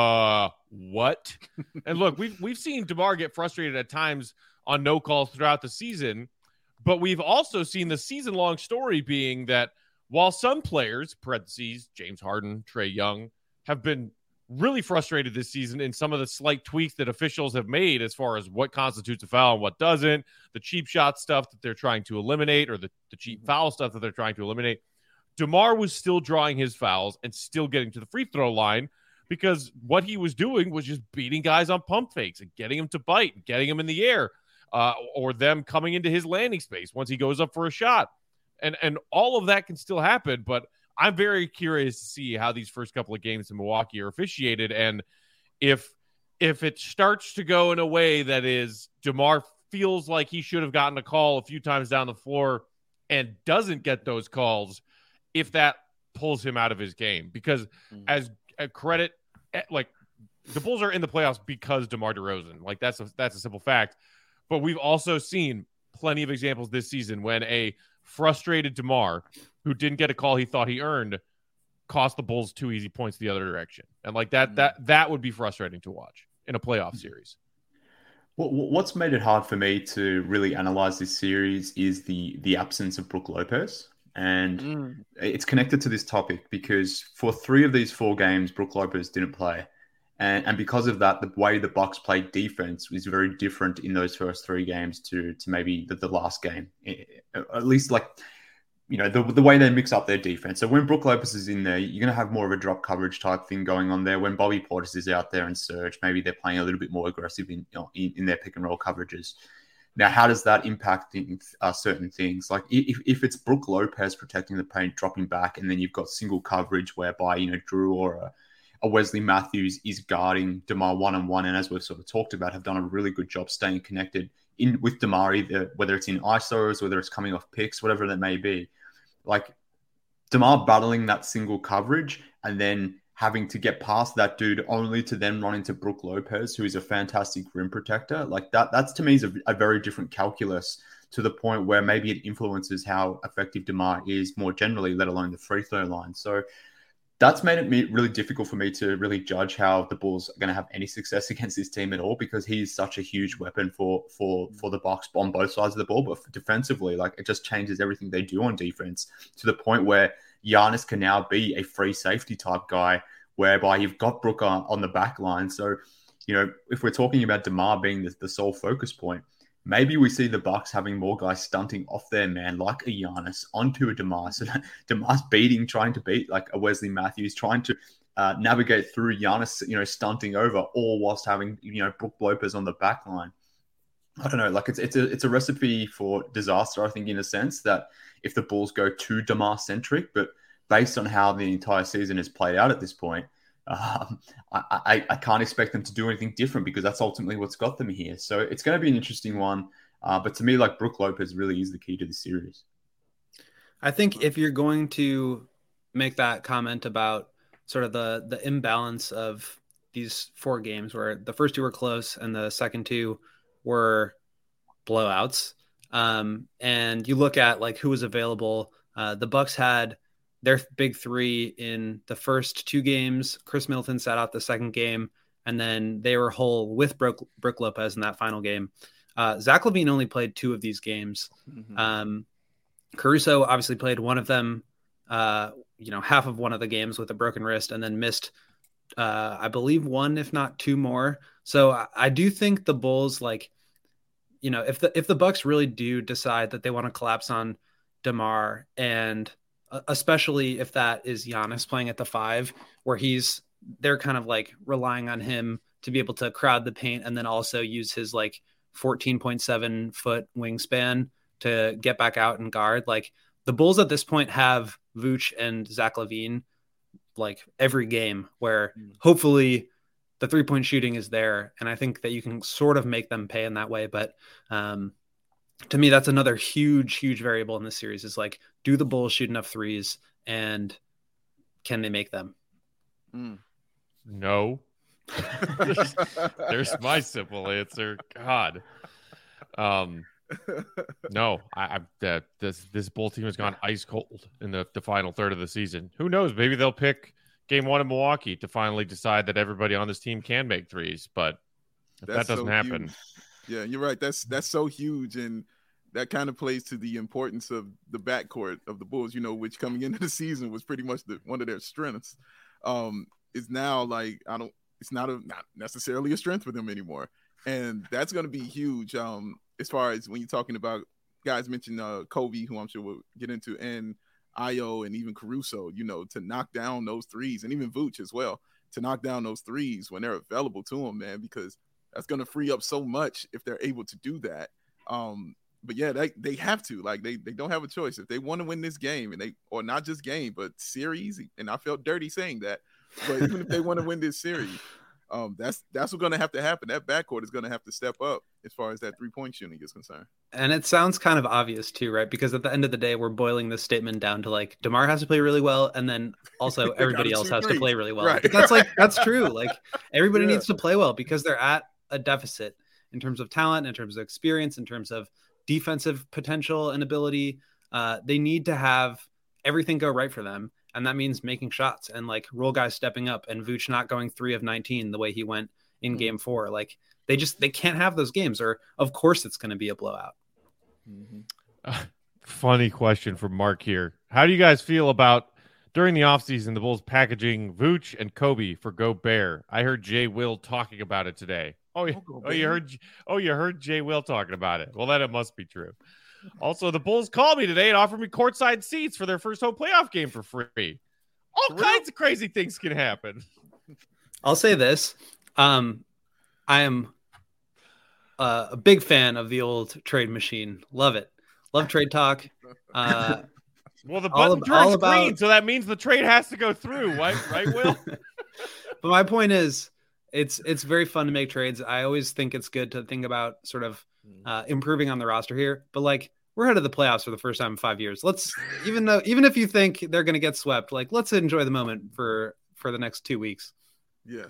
what? And look, we've seen DeMar get frustrated at times on no calls throughout the season, but we've also seen the season-long story being that while some players, parentheses, James Harden, Trae Young, have been really frustrated this season in some of the slight tweaks that officials have made as far as what constitutes a foul and what doesn't, the cheap shot stuff that they're trying to eliminate, or the cheap foul stuff that they're trying to eliminate, DeMar was still drawing his fouls and still getting to the free throw line because what he was doing was just beating guys on pump fakes and getting them to bite and getting them in the air, or them coming into his landing space once he goes up for a shot. And all of that can still happen, but I'm very curious to see how these first couple of games in Milwaukee are officiated. And if it starts to go in a way that is DeMar feels like he should have gotten a call a few times down the floor and doesn't get those calls, if that pulls him out of his game, because as a credit, like the Bulls are in the playoffs because DeMar DeRozan, like that's a simple fact. But we've also seen plenty of examples this season when a frustrated DeMar who didn't get a call he thought he earned cost the Bulls 2 easy points the other direction. And like that would be frustrating to watch in a playoff series. Well, what's made it hard for me to really analyze this series is the absence of Brook Lopez. And it's connected to this topic because for 3 of these 4 games, Brook Lopez didn't play. And because of that, the way the Bucks played defense was very different in those first 3 games to maybe the last game. At least the way they mix up their defense. So when Brook Lopez is in there, you're going to have more of a drop coverage type thing going on there. When Bobby Portis is out there and Serge, maybe they're playing a little bit more aggressive in their pick and roll coverages. Now, how does that impact certain things? Like if it's Brook Lopez protecting the paint, dropping back, and then you've got single coverage whereby, Jrue or a Wesley Matthews is guarding DeMar one-on-one, and as we've sort of talked about, have done a really good job staying connected with DeMar, either whether it's in ISOs, whether it's coming off picks, whatever that may be. Like DeMar battling that single coverage and then having to get past that dude only to then run into Brook Lopez, who is a fantastic rim protector. Like that's to me is a very different calculus, to the point where maybe it influences how effective DeMar is more generally, let alone the free throw line. So that's made it really difficult for me to really judge how the Bulls are going to have any success against this team at all, because he's such a huge weapon for the Bucks on both sides of the ball. But defensively, like, it just changes everything they do on defense, to the point where Giannis can now be a free safety type guy, whereby you've got Brook on the back line. So, if we're talking about DeMar being the sole focus point, maybe we see the Bucks having more guys stunting off their man, like a Giannis, onto a DeMar. So DeMar's trying to beat like a Wesley Matthews, trying to navigate through Giannis, stunting over, all whilst having, Brook Lopez on the back line. I don't know, like it's a recipe for disaster, I think, in a sense, that if the Bulls go too DeMar centric, but based on how the entire season has played out at this point, I can't expect them to do anything different, because that's ultimately what's got them here. So it's going to be an interesting one. But to me, like, Brook Lopez really is the key to the series. I think if you're going to make that comment about sort of the imbalance of these 4 games where the first 2 were close and the second 2 were blowouts. And you look at like who was available. The Bucks had their big 3 in the first 2 games. Chris Middleton sat out the second game, and then they were whole with Brook Lopez in that final game. Zach LaVine only played 2 of these games. Caruso obviously played one of them, half of one of the games with a broken wrist, and then missed, I believe, 1, if not 2 more. So I do think the Bulls, like, if the Bucks really do decide that they want to collapse on DeMar, and especially if that is Giannis playing at the 5, where they're kind of like relying on him to be able to crowd the paint and then also use his like 14.7 foot wingspan to get back out and guard. Like, the Bulls at this point have Vooch and Zach LaVine like every game, where hopefully the 3-point shooting is there. And I think that you can sort of make them pay in that way. But to me, that's another huge variable in this series, is like, do the Bulls shoot enough threes, and can they make them? No. There's my simple answer. God. No, this Bull team has gone ice cold in the final third of the season. Who knows? Maybe they'll pick game 1 in Milwaukee to finally decide that everybody on this team can make threes, but if that doesn't happen. Huge. Yeah, you're right. That's so huge, and that kind of plays to the importance of the backcourt of the Bulls, which coming into the season was pretty much one of their strengths. Is now like, it's not necessarily a strength for them anymore, and that's going to be huge. As far as when you're talking about guys mentioned Kobe, who I'm sure we'll get into, and Ayo, and even Caruso, to knock down those threes, and even Vooch as well, to knock down those threes when they're available to them, man, because that's going to free up so much if they're able to do that. But yeah, they have to, like, they don't have a choice if they want to win this game, and or not just game, but series. And I felt dirty saying that, but even if they want to win this series, that's what's going to have to happen. That backcourt is going to have to step up as far as that 3-point shooting is concerned. And it sounds kind of obvious too, right? Because at the end of the day, we're boiling this statement down to like, DeMar has to play really well, and then also everybody else has to play really well. Right. But that's true. Like, everybody needs to play well, because they're at a deficit in terms of talent, in terms of experience, in terms of defensive potential and ability. They need to have everything go right for them. And that means making shots and like role guys stepping up, and Vooch not going 3 of 19 the way he went in game 4. Like, they can't have those games, or of course it's going to be a blowout. Funny question from Mark here. How do you guys feel about, during the offseason, the Bulls packaging Vooch and Kobe for Gobert? I heard Jay Will talking about it today. You heard Jay Will talking about it. Well, then it must be true. Also, the Bulls called me today and offered me courtside seats for their first home playoff game for free. All kinds of crazy things can happen. I'll say this. I am a big fan of the old trade machine. Love it. Love trade talk. Well, the button turns green, so that means the trade has to go through, right, Will? But my point is, it's very fun to make trades. I always think it's good to think about sort of improving on the roster here. But like, we're headed to the playoffs for the first time in 5 years. Let's, even if you think they're going to get swept, like, let's enjoy the moment for the next 2 weeks. Yeah.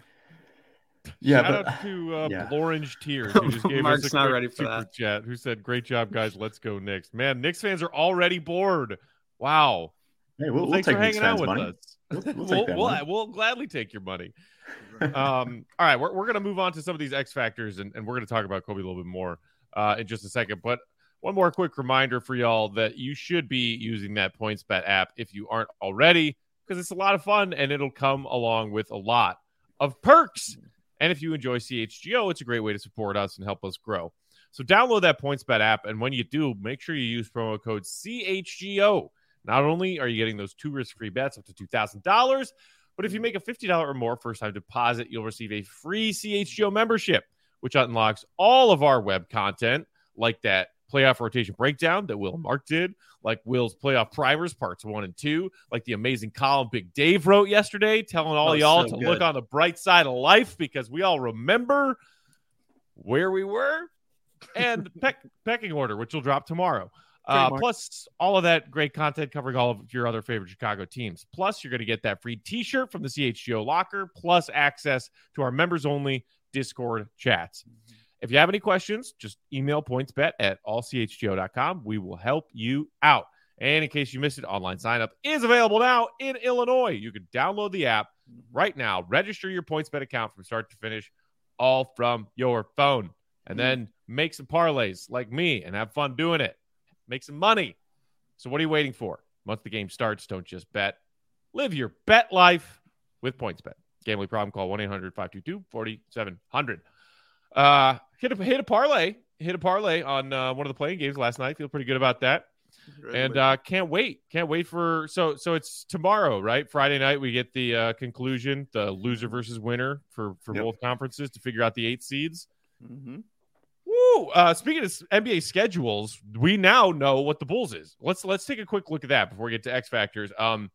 Shout out to Orange Tears, who just gave Mark's us a not quick ready for super that. chat, who said, "Great job, guys. Let's go Knicks." Man, Knicks fans are already bored. Wow. Hey, we'll thanks take for hanging out with money. us. We'll gladly take your money. All right, we're going to move on to some of these X factors, and we're going to talk about Kobe a little bit more in just a second. But one more quick reminder for y'all that you should be using that PointsBet app if you aren't already, because it's a lot of fun, and it'll come along with a lot of perks. And if you enjoy CHGO, it's a great way to support us and help us grow. So download that PointsBet app, and when you do, make sure you use promo code CHGO. Not only are you getting those 2 risk-free bets up to $2,000, but if you make a $50 or more first-time deposit, you'll receive a free CHGO membership, which unlocks all of our web content, like that playoff rotation breakdown that Will and Mark did, like Will's playoff primers parts 1 and 2, like the amazing column Big Dave wrote yesterday, telling all y'all to look on the bright side of life, because we all remember where we were, and pecking order, which will drop tomorrow. Plus all of that great content covering all of your other favorite Chicago teams. Plus, you're going to get that free t-shirt from the CHGO locker, plus access to our members-only Discord chats. If you have any questions, just email pointsbet@allchgo.com. We will help you out. And in case you missed it, online sign-up is available now in Illinois. You can download the app right now, register your PointsBet account from start to finish, all from your phone. And then make some parlays like me and have fun doing it. Make some money. So what are you waiting for? Once the game starts, don't just bet. Live your bet life with PointsBet. Gambling problem, call 1-800-522-4700. Hit a parlay. Hit a parlay on one of the playing games last night. Feel pretty good about that. And can't wait for so it's tomorrow, right? Friday night we get the conclusion, the loser versus winner for both conferences to figure out the 8 seeds. Woo! Speaking of NBA schedules, we now know what the Bulls is. Let's take a quick look at that before we get to X factors.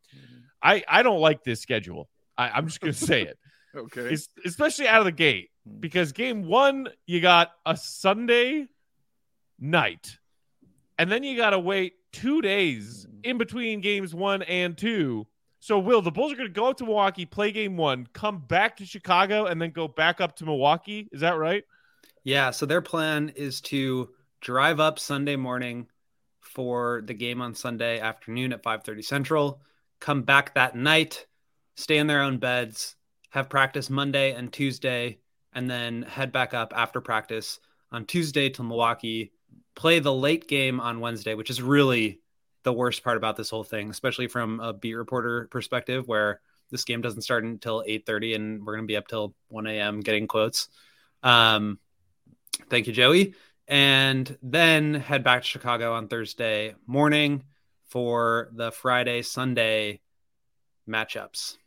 I don't like this schedule. I'm just gonna say it. Okay. Especially out of the gate, because game 1 you got a Sunday night, and then you gotta wait 2 days in between games 1 and 2. So, Will, the Bulls are going to go up to Milwaukee, play game 1, come back to Chicago, and then go back up to Milwaukee. Is that right? Yeah, so their plan is to drive up Sunday morning for the game on Sunday afternoon at 5:30 Central, come back that night, stay in their own beds, have practice Monday and Tuesday, and then head back up after practice on Tuesday to Milwaukee, play the late game on Wednesday, which is really the worst part about this whole thing, especially from a beat reporter perspective, where this game doesn't start until 8:30 and we're going to be up till 1 a.m. getting quotes. Thank you, Joey. And then head back to Chicago on Thursday morning for the Friday, Sunday matchups.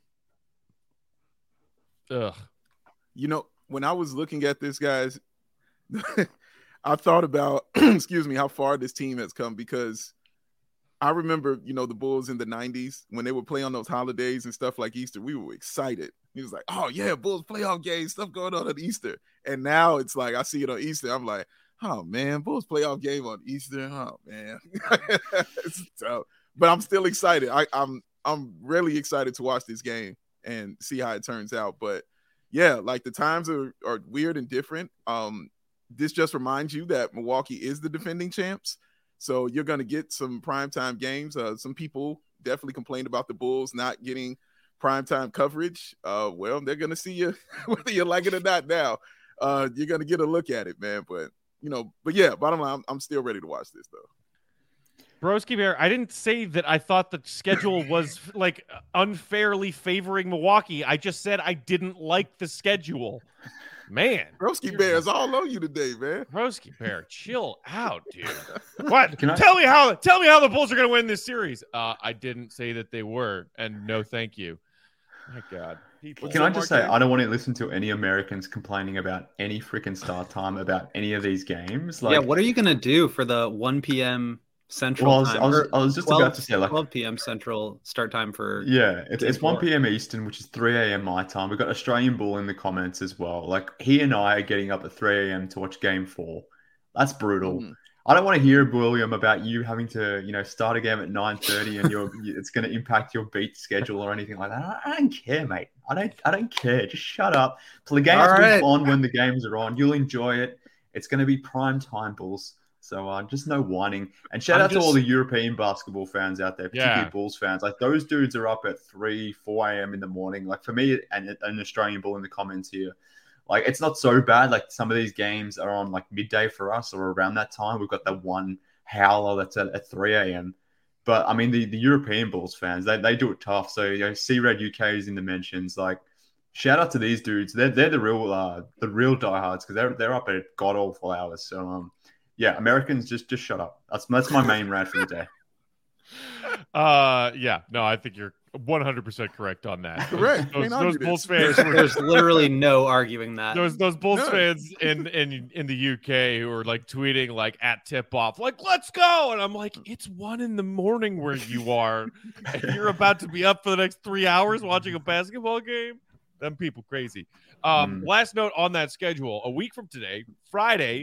Ugh. You know, when I was looking at this, guys, I thought about, excuse me, how far this team has come, because I remember, you know, the Bulls in the 90s when they would play on those holidays and stuff like Easter, we were excited. He was like, oh, yeah, Bulls playoff games, stuff going on Easter. And now it's like I see it on Easter. I'm like, oh, man, Bulls playoff game on Easter. Oh, man. It's tough. But I'm still excited. I'm really excited to watch this game and see how it turns out. But, yeah, like the times are weird and different. This just reminds you that Milwaukee is the defending champs. So you're going to get some primetime games. Some people definitely complained about the Bulls not getting primetime coverage. Well, they're going to see you whether you like it or not now. You're going to get a look at it, man. But yeah, bottom line, I'm still ready to watch this, though. Broski Bear, I didn't say that I thought the schedule was like unfairly favoring Milwaukee. I just said I didn't like the schedule. Man, Broski Bear is all on you today, man. Broski Bear, chill out, dude. What? Tell me how the Bulls are going to win this series. I didn't say that they were, and no, thank you. My God. Can I just say, I don't want to listen to any Americans complaining about any freaking start time about any of these games. Like, yeah, what are you going to do for the 1 p.m. Central time? I was just 12, about to say, like 12 p.m. Central start time for. Yeah, it's 1 p.m. Eastern, which is 3 a.m. my time. We've got Australian Bull in the comments as well. Like, he and I are getting up at 3 a.m. to watch Game 4. That's brutal. I don't want to hear, William, about you having to, start a game at 9:30 and it's going to impact your beat schedule or anything like that. I don't care, mate. I don't care. Just shut up. So the games will be on when the games are on. You'll enjoy it. It's going to be prime time, Bulls. So just no whining. And shout out to all the European basketball fans out there, particularly Bulls fans. Like, those dudes are up at 3, 4 a.m. in the morning. Like, for me, and an Australian Bull in the comments here, like, it's not so bad. Like, some of these games are on like midday for us or around that time. We've got that one howler that's at 3 a.m. But I mean, the European Bulls fans, they do it tough. So C-Red UK is in the mentions. Like, shout out to these dudes. They're the real diehards, because they're up at god awful hours. So yeah, Americans, just shut up. That's my main rant for the day. Yeah, no, I think you're 100% correct on that. Correct. Those Bulls fans. There's literally no arguing that. Those Bulls fans in the UK who are like tweeting like at tip off, like, let's go, and I'm like, it's 1 a.m. where you are, and you're about to be up for the next 3 hours watching a basketball game. Them people crazy. Last note on that schedule: a week from today, Friday,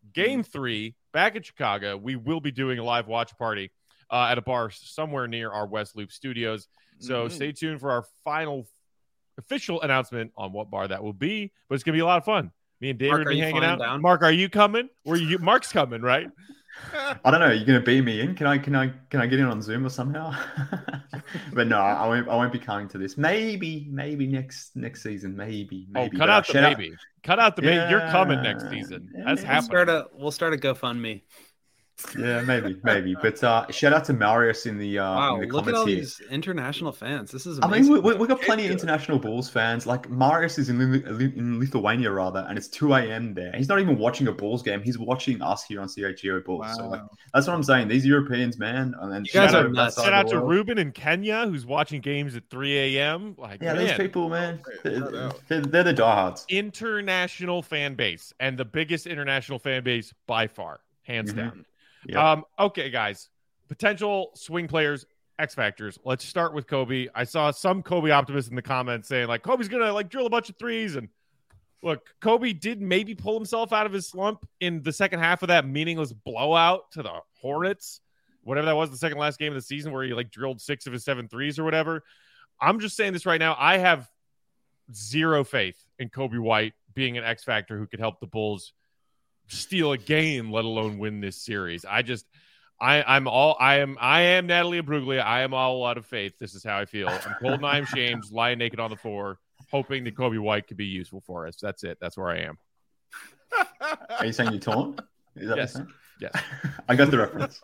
Game 3, back in Chicago, we will be doing a live watch party at a bar somewhere near our West Loop studios. So stay tuned for our final official announcement on what bar that will be. But it's going to be a lot of fun. Me and David will be hanging out. Down? Mark, are you coming? Mark's coming, right? I don't know. You're gonna beam me in? Can I get in on Zoom or somehow? But no, I won't be coming to this. Maybe next season. Maybe. Cut out the maybe. Cut out the maybe. You're coming next season. That's happening. We'll start a GoFundMe. Yeah, maybe. But shout out to Marius in the wow, in the look comments at all here. these international fans. This is amazing. I mean, we got plenty of international Bulls fans. Like Marius is in Lithuania rather, and it's 2 a.m. there. He's not even watching a Bulls game. He's watching us here on CHGO Bulls. Wow. So like, that's what I'm saying. These Europeans, man. And then you guys are nuts. Shout out to Ruben in Kenya, who's watching games at 3 a.m. Like, yeah, man, those people, man. They're the diehards. International fan base, and the biggest international fan base by far, hands down. Yep. Okay, guys. Potential swing players, X factors. Let's start with Kobe. I saw some Kobe optimists in the comments saying like Kobe's gonna like drill a bunch of threes. And look, Kobe did maybe pull himself out of his slump in the second half of that meaningless blowout to the Hornets, whatever that was, the second last game of the season where he like drilled 6 of his 7 threes or whatever. I'm just saying this right now. I have zero faith in Kobe White being an X factor who could help the Bulls steal a game, let alone win this series. I am Natalie Imbruglia. I am all out of faith. This is how I feel. I'm cold and I am shamed, lying naked on the floor, hoping that Kobe White could be useful for us. That's it. That's where I am. Are you saying you're torn? Is that yes. what you're saying? Yes. I got the reference.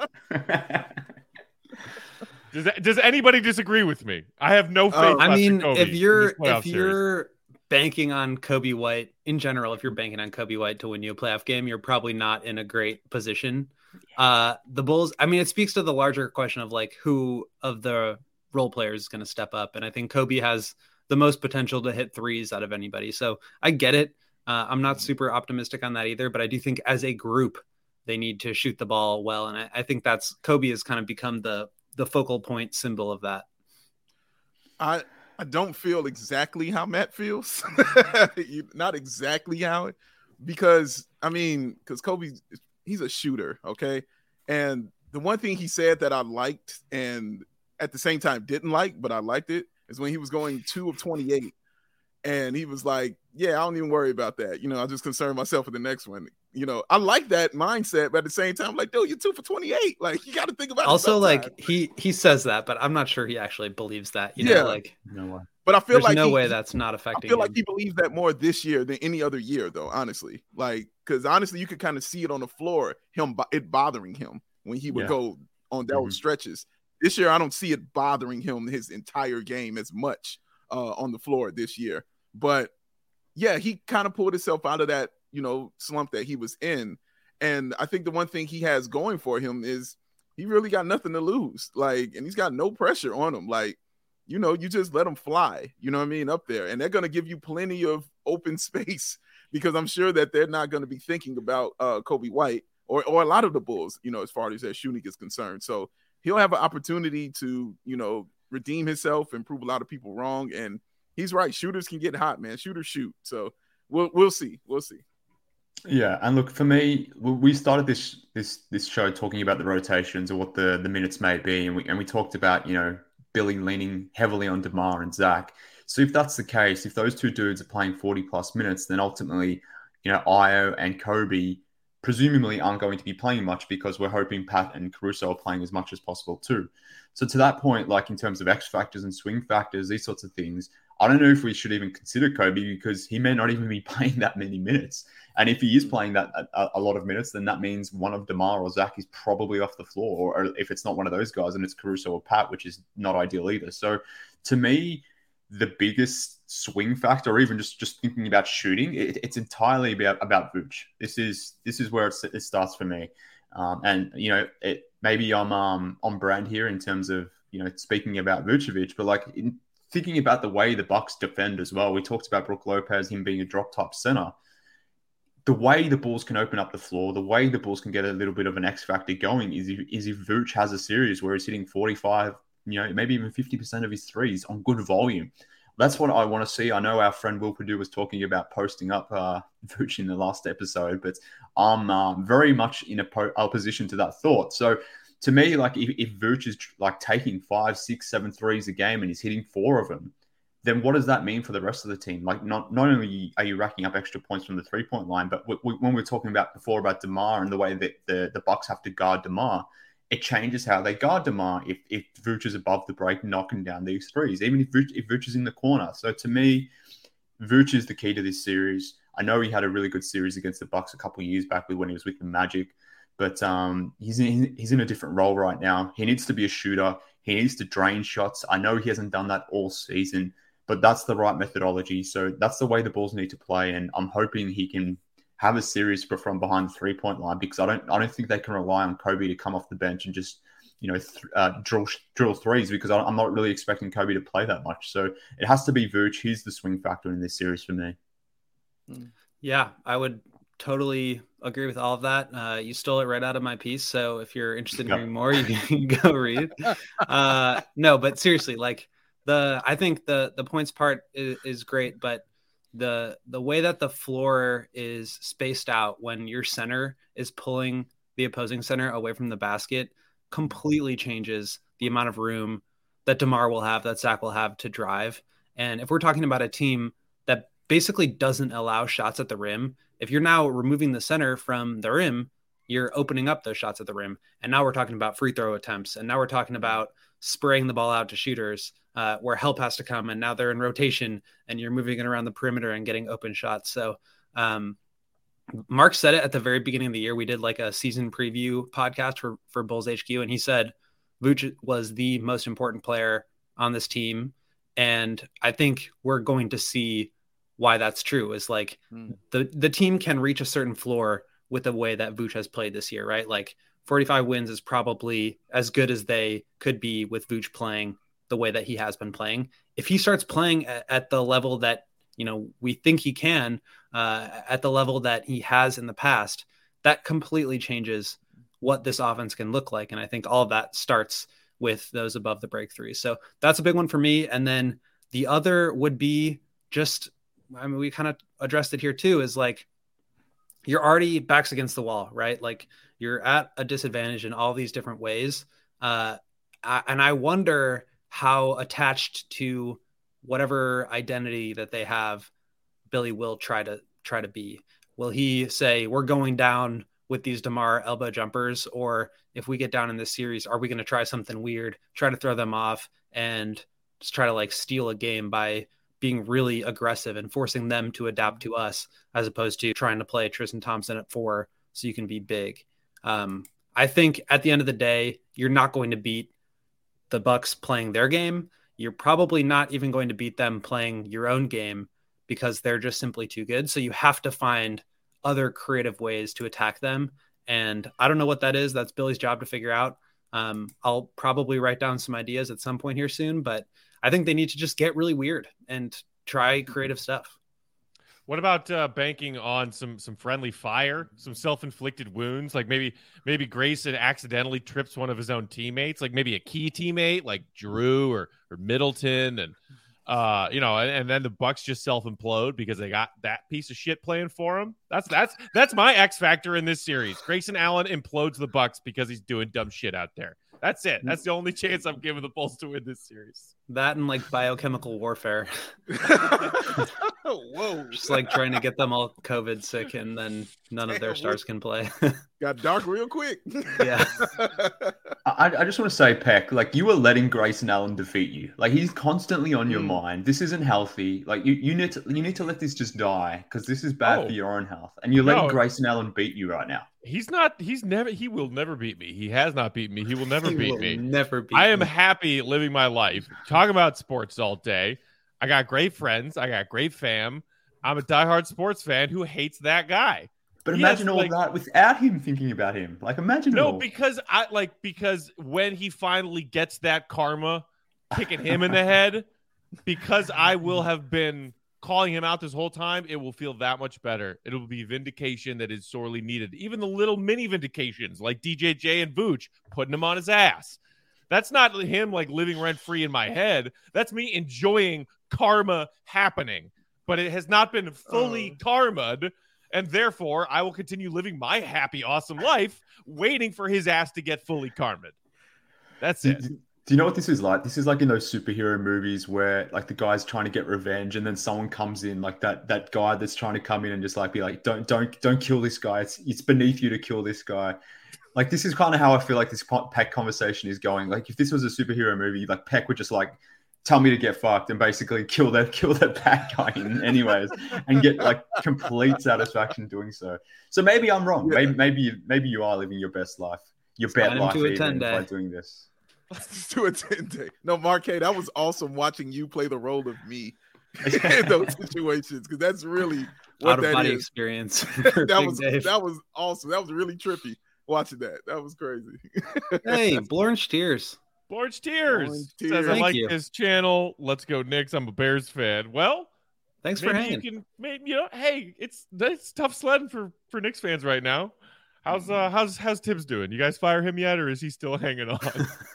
Does anybody disagree with me? I have no faith. I mean, Kobe if you're series. banking on Kobe White in general, if you're banking on Kobe White to win you a playoff game, you're probably not in a great position. The Bulls, I mean, it speaks to the larger question of like who of the role players is going to step up. And I think Kobe has the most potential to hit threes out of anybody. So I get it. I'm not super optimistic on that either, but I do think as a group, they need to shoot the ball well. And I think that's Kobe has kind of become the focal point symbol of that. I don't feel exactly how Matt feels. Not exactly how it, because Kobe, he's a shooter. Okay. And the one thing he said that I liked and at the same time didn't like, but I liked it, is when he was going 2 of 28 and he was like, yeah, I don't even worry about that. I'll just concern myself with the next one. I like that mindset, but at the same time, like, dude, you're 2 for 28. Like, you got to think about also, it. Like, he says that, but I'm not sure he actually believes that. No way. But I feel there's like no way that's not affecting. I feel like he believes that more this year than any other year, though. Honestly, like, because honestly, you could kind of see it on the floor, it bothering him when he would go on those stretches. This year, I don't see it bothering him his entire game as much on the floor this year. But yeah, he kind of pulled himself out of that, slump that he was in. And I think the one thing he has going for him is he really got nothing to lose. Like, and he's got no pressure on him. Like, you just let them fly, up there. And they're going to give you plenty of open space because I'm sure that they're not going to be thinking about Kobe White or a lot of the Bulls, as far as their shooting is concerned. So he'll have an opportunity to, redeem himself and prove a lot of people wrong. And he's right. Shooters can get hot, man. Shooters shoot. So we'll see. We'll see. Yeah, and look, for me, we started this show talking about the rotations or what the minutes may be, and we talked about Billy leaning heavily on DeMar and Zach. So if that's the case, if those two dudes are playing 40 plus minutes, then ultimately, Io and Kobe presumably aren't going to be playing much because we're hoping Pat and Caruso are playing as much as possible too. So to that point, like in terms of X factors and swing factors, these sorts of things, I don't know if we should even consider Kobe because he may not even be playing that many minutes. And if he is playing that a lot of minutes, then that means one of DeMar or Zach is probably off the floor. Or if it's not one of those guys, then it's Caruso or Pat, which is not ideal either. So to me, the biggest swing factor, or even just thinking about shooting, it's entirely about Vooch. This is where it starts for me. And maybe I'm on brand here in terms of speaking about Vucevic, but like thinking about the way the Bucks defend as well. We talked about Brook Lopez, him being a drop type center. The way the Bulls can open up the floor, the way the Bulls can get a little bit of an X factor going is if Vooch has a series where he's hitting 45, maybe even 50% of his threes on good volume. That's what I want to see. I know our friend Will Purdue was talking about posting up Vooch in the last episode, but I'm very much in opposition to that thought. So to me, like if Vooch is like taking 5, 6, 7 threes a game and he's hitting 4 of them, then what does that mean for the rest of the team? Like not only are you racking up extra points from the 3-point line, but when we're talking about before about DeMar and the way that the Bucks have to guard DeMar, it changes how they guard DeMar if Vooch is above the break, knocking down these threes, even if Vooch is in the corner. So to me, Vooch is the key to this series. I know he had a really good series against the Bucks a couple of years back when he was with the Magic, but he's in a different role right now. He needs to be a shooter. He needs to drain shots. I know he hasn't done that all season, but that's the right methodology. So that's the way the Bulls need to play, and I'm hoping he can have a series from behind the 3-point line, because I don't think they can rely on Kobe to come off the bench and just drill threes, because I'm not really expecting Kobe to play that much. So it has to be Vooch. He's the swing factor in this series for me. Yeah, I would totally agree with all of that. You stole it right out of my piece. So if you're interested in hearing more, you can go read. No, but seriously, like I think the points part is great, but the way that the floor is spaced out when your center is pulling the opposing center away from the basket completely changes the amount of room that DeMar will have, that Zach will have to drive. And if we're talking about a team that basically doesn't allow shots at the rim, if you're now removing the center from the rim, you're opening up those shots at the rim. And now we're talking about free throw attempts. And now we're talking about spraying the ball out to shooters where help has to come. And now they're in rotation and you're moving it around the perimeter and getting open shots. So Mark said it at the very beginning of the year. We did like a season preview podcast for Bulls HQ. And he said Vooch was the most important player on this team. And I think we're going to see why that's true. Is like the team can reach a certain floor with the way that Vooch has played this year, right? Like 45 wins is probably as good as they could be with Vooch playing the way that he has been playing. If he starts playing at the level that, we think he can, at the level that he has in the past, that completely changes what this offense can look like. And I think all of that starts with those above the break threes. So that's a big one for me. And then the other would be we kind of addressed it here too, is like, you're already backs against the wall, right? Like you're at a disadvantage in all these different ways. And I wonder how attached to whatever identity that they have, Billy will try to be. Will he say, we're going down with these DeMar elbow jumpers? Or if we get down in this series, are we going to try something weird, try to throw them off and just try to like steal a game by being really aggressive and forcing them to adapt to us, as opposed to trying to play Tristan Thompson at 4 so you can be big. I think at the end of the day, you're not going to beat the Bucks playing their game. You're probably not even going to beat them playing your own game, because they're just simply too good. So you have to find other creative ways to attack them. And I don't know what that is. That's Billy's job to figure out. I'll probably write down some ideas at some point here soon, but I think they need to just get really weird and try creative stuff. What about banking on some friendly fire, some self-inflicted wounds? Like maybe Grayson accidentally trips one of his own teammates, like maybe a key teammate like Drew or Middleton, and and then the Bucks just self-implode because they got that piece of shit playing for them. That's my X factor in this series. Grayson Allen implodes the Bucks because he's doing dumb shit out there. That's it. That's the only chance I'm giving the Bulls to win this series. That and like biochemical warfare. Whoa. Just like trying to get them all COVID sick, and then none of their stars can play. Got dark real quick. Yeah. I just want to say, Peck, like you were letting Grayson Allen defeat you. Like he's constantly on your mind. This isn't healthy. Like you need to let this just die, because this is bad for your own health. And you're letting Grayson Allen beat you right now. He will never beat me. He has not beaten me. He will never beat me. Never beat I am happy living my life, talking about sports all day. I got great friends. I got great fam. I'm a diehard sports fan who hates that guy. But imagine all that without him thinking about him. Like imagine because when he finally gets that karma kicking him in the head, because I will have been calling him out this whole time, it will feel that much better. It will be vindication that is sorely needed. Even the little mini vindications like DJJ and Vooch putting him on his ass. That's not him like living rent free in my head. That's me enjoying karma happening, but it has not been fully karma'd. And therefore, I will continue living my happy, awesome life, waiting for his ass to get fully karma'd. That's it. Do you know what this is like? This is like in those superhero movies where like the guy's trying to get revenge, and then someone comes in, like that guy that's trying to come in and just like be like, don't kill this guy. It's beneath you to kill this guy. Like, this is kind of how I feel like this Peck conversation is going. Like, if this was a superhero movie, like Peck would just like tell me to get fucked and basically kill that bad guy in anyways, and get like complete satisfaction doing so. So maybe I'm wrong. Yeah. Maybe you are living your best life, your best life even by doing this. Let's do a 10-day. No, Marquet, that was awesome watching you play the role of me in those situations, because that's really what that is. Experience. that was awesome. That was really trippy watching that. That was crazy. Hey, Blorge Tears. Blorge Tears says, I like his channel. Let's go, Knicks. I'm a Bears fan. Well, thanks for hanging. Hey, it's tough sledding for Knicks fans right now. How's Tibbs doing? You guys fire him yet, or is he still hanging on?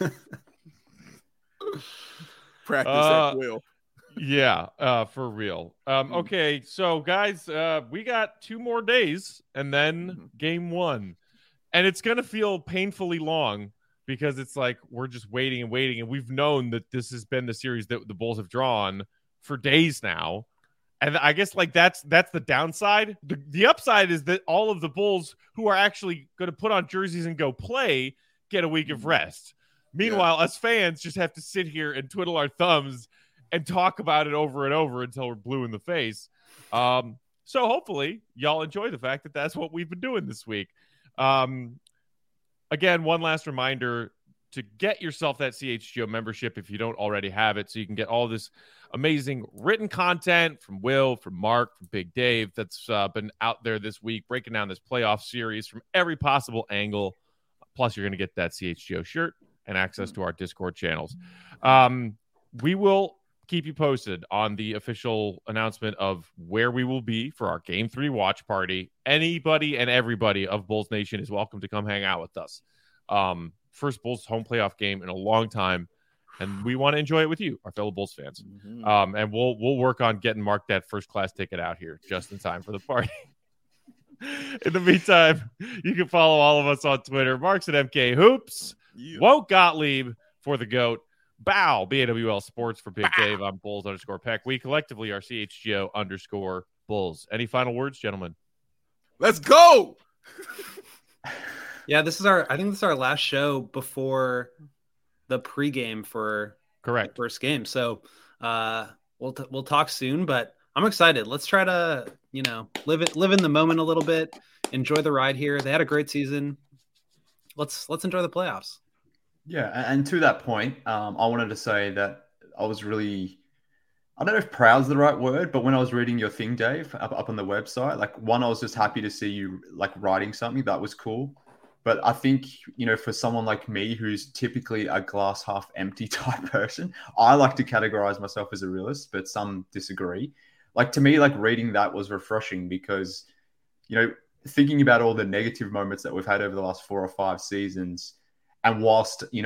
Practice at will. Yeah, for real. Okay, so guys, we got 2 more days and then game 1. And it's going to feel painfully long because it's like we're just waiting and waiting. And we've known that this has been the series that the Bulls have drawn for days now. And I guess like that's the downside. The upside is that all of the Bulls who are actually going to put on jerseys and go play get a week of rest. Meanwhile, us fans just have to sit here and twiddle our thumbs and talk about it over and over until we're blue in the face. So hopefully y'all enjoy the fact that that's what we've been doing this week. Again, one last reminder to get yourself that CHGO membership if you don't already have it, so you can get all this amazing written content from Will, from Mark, from Big Dave that's been out there this week, breaking down this playoff series from every possible angle. Plus, you're going to get that CHGO shirt and access to our Discord channels. We will keep you posted on the official announcement of where we will be for our Game 3 watch party. Anybody and everybody of Bulls Nation is welcome to come hang out with us. First Bulls home playoff game in a long time, and we want to enjoy it with you, our fellow Bulls fans. And we'll work on getting Mark that first class ticket out here just in time for the party. In the meantime, you can follow all of us on Twitter. Mark's at MK Hoops. Won't Gottlieb for the GOAT. Bow, BAWL Sports for Big Dave. I'm Bulls_Peck. We collectively are CHGO_Bulls. Any final words, gentlemen? Let's go. Yeah, I think this is our last show before the pregame for the first game. So we'll talk soon, but I'm excited. Let's try to, live in the moment a little bit, enjoy the ride here. They had a great season. Let's enjoy the playoffs. Yeah, and to that point, I wanted to say that I was really, I don't know if proud is the right word, but when I was reading your thing, Dave, up on the website, like I was just happy to see you like writing something that was cool. But I think, for someone like me, who's typically a glass half empty type person, I like to categorize myself as a realist, but some disagree. Like, to me, like reading that was refreshing because, thinking about all the negative moments that we've had over the last 4 or 5 seasons, and whilst, in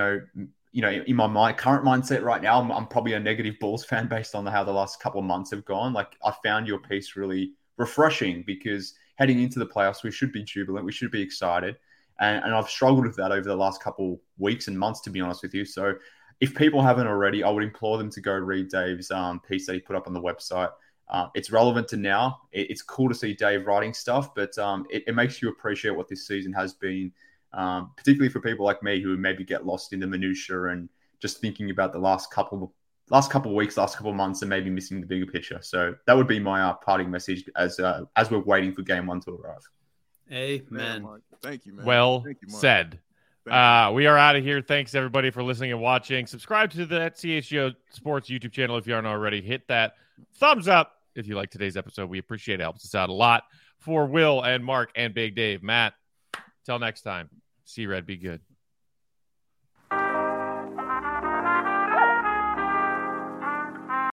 my current mindset right now, I'm probably a negative Bulls fan based on how the last couple of months have gone. Like, I found your piece really refreshing because heading into the playoffs, we should be jubilant. We should be excited. And I've struggled with that over the last couple weeks and months, to be honest with you. So if people haven't already, I would implore them to go read Dave's piece that he put up on the website. It's relevant to now. It's cool to see Dave writing stuff, but it makes you appreciate what this season has been, particularly for people like me who maybe get lost in the minutiae and just thinking about the last couple of weeks, last couple of months, and maybe missing the bigger picture. So that would be my parting message as we're waiting for game 1 to arrive. Amen. Thank you, man. Well said. We are out of here. Thanks, everybody, for listening and watching. Subscribe to the CHGO Sports YouTube channel if you aren't already. Hit that thumbs up if you like today's episode. We appreciate it. It helps us out a lot. For Will and Mark and Big Dave, Matt, till next time, see Red, be good.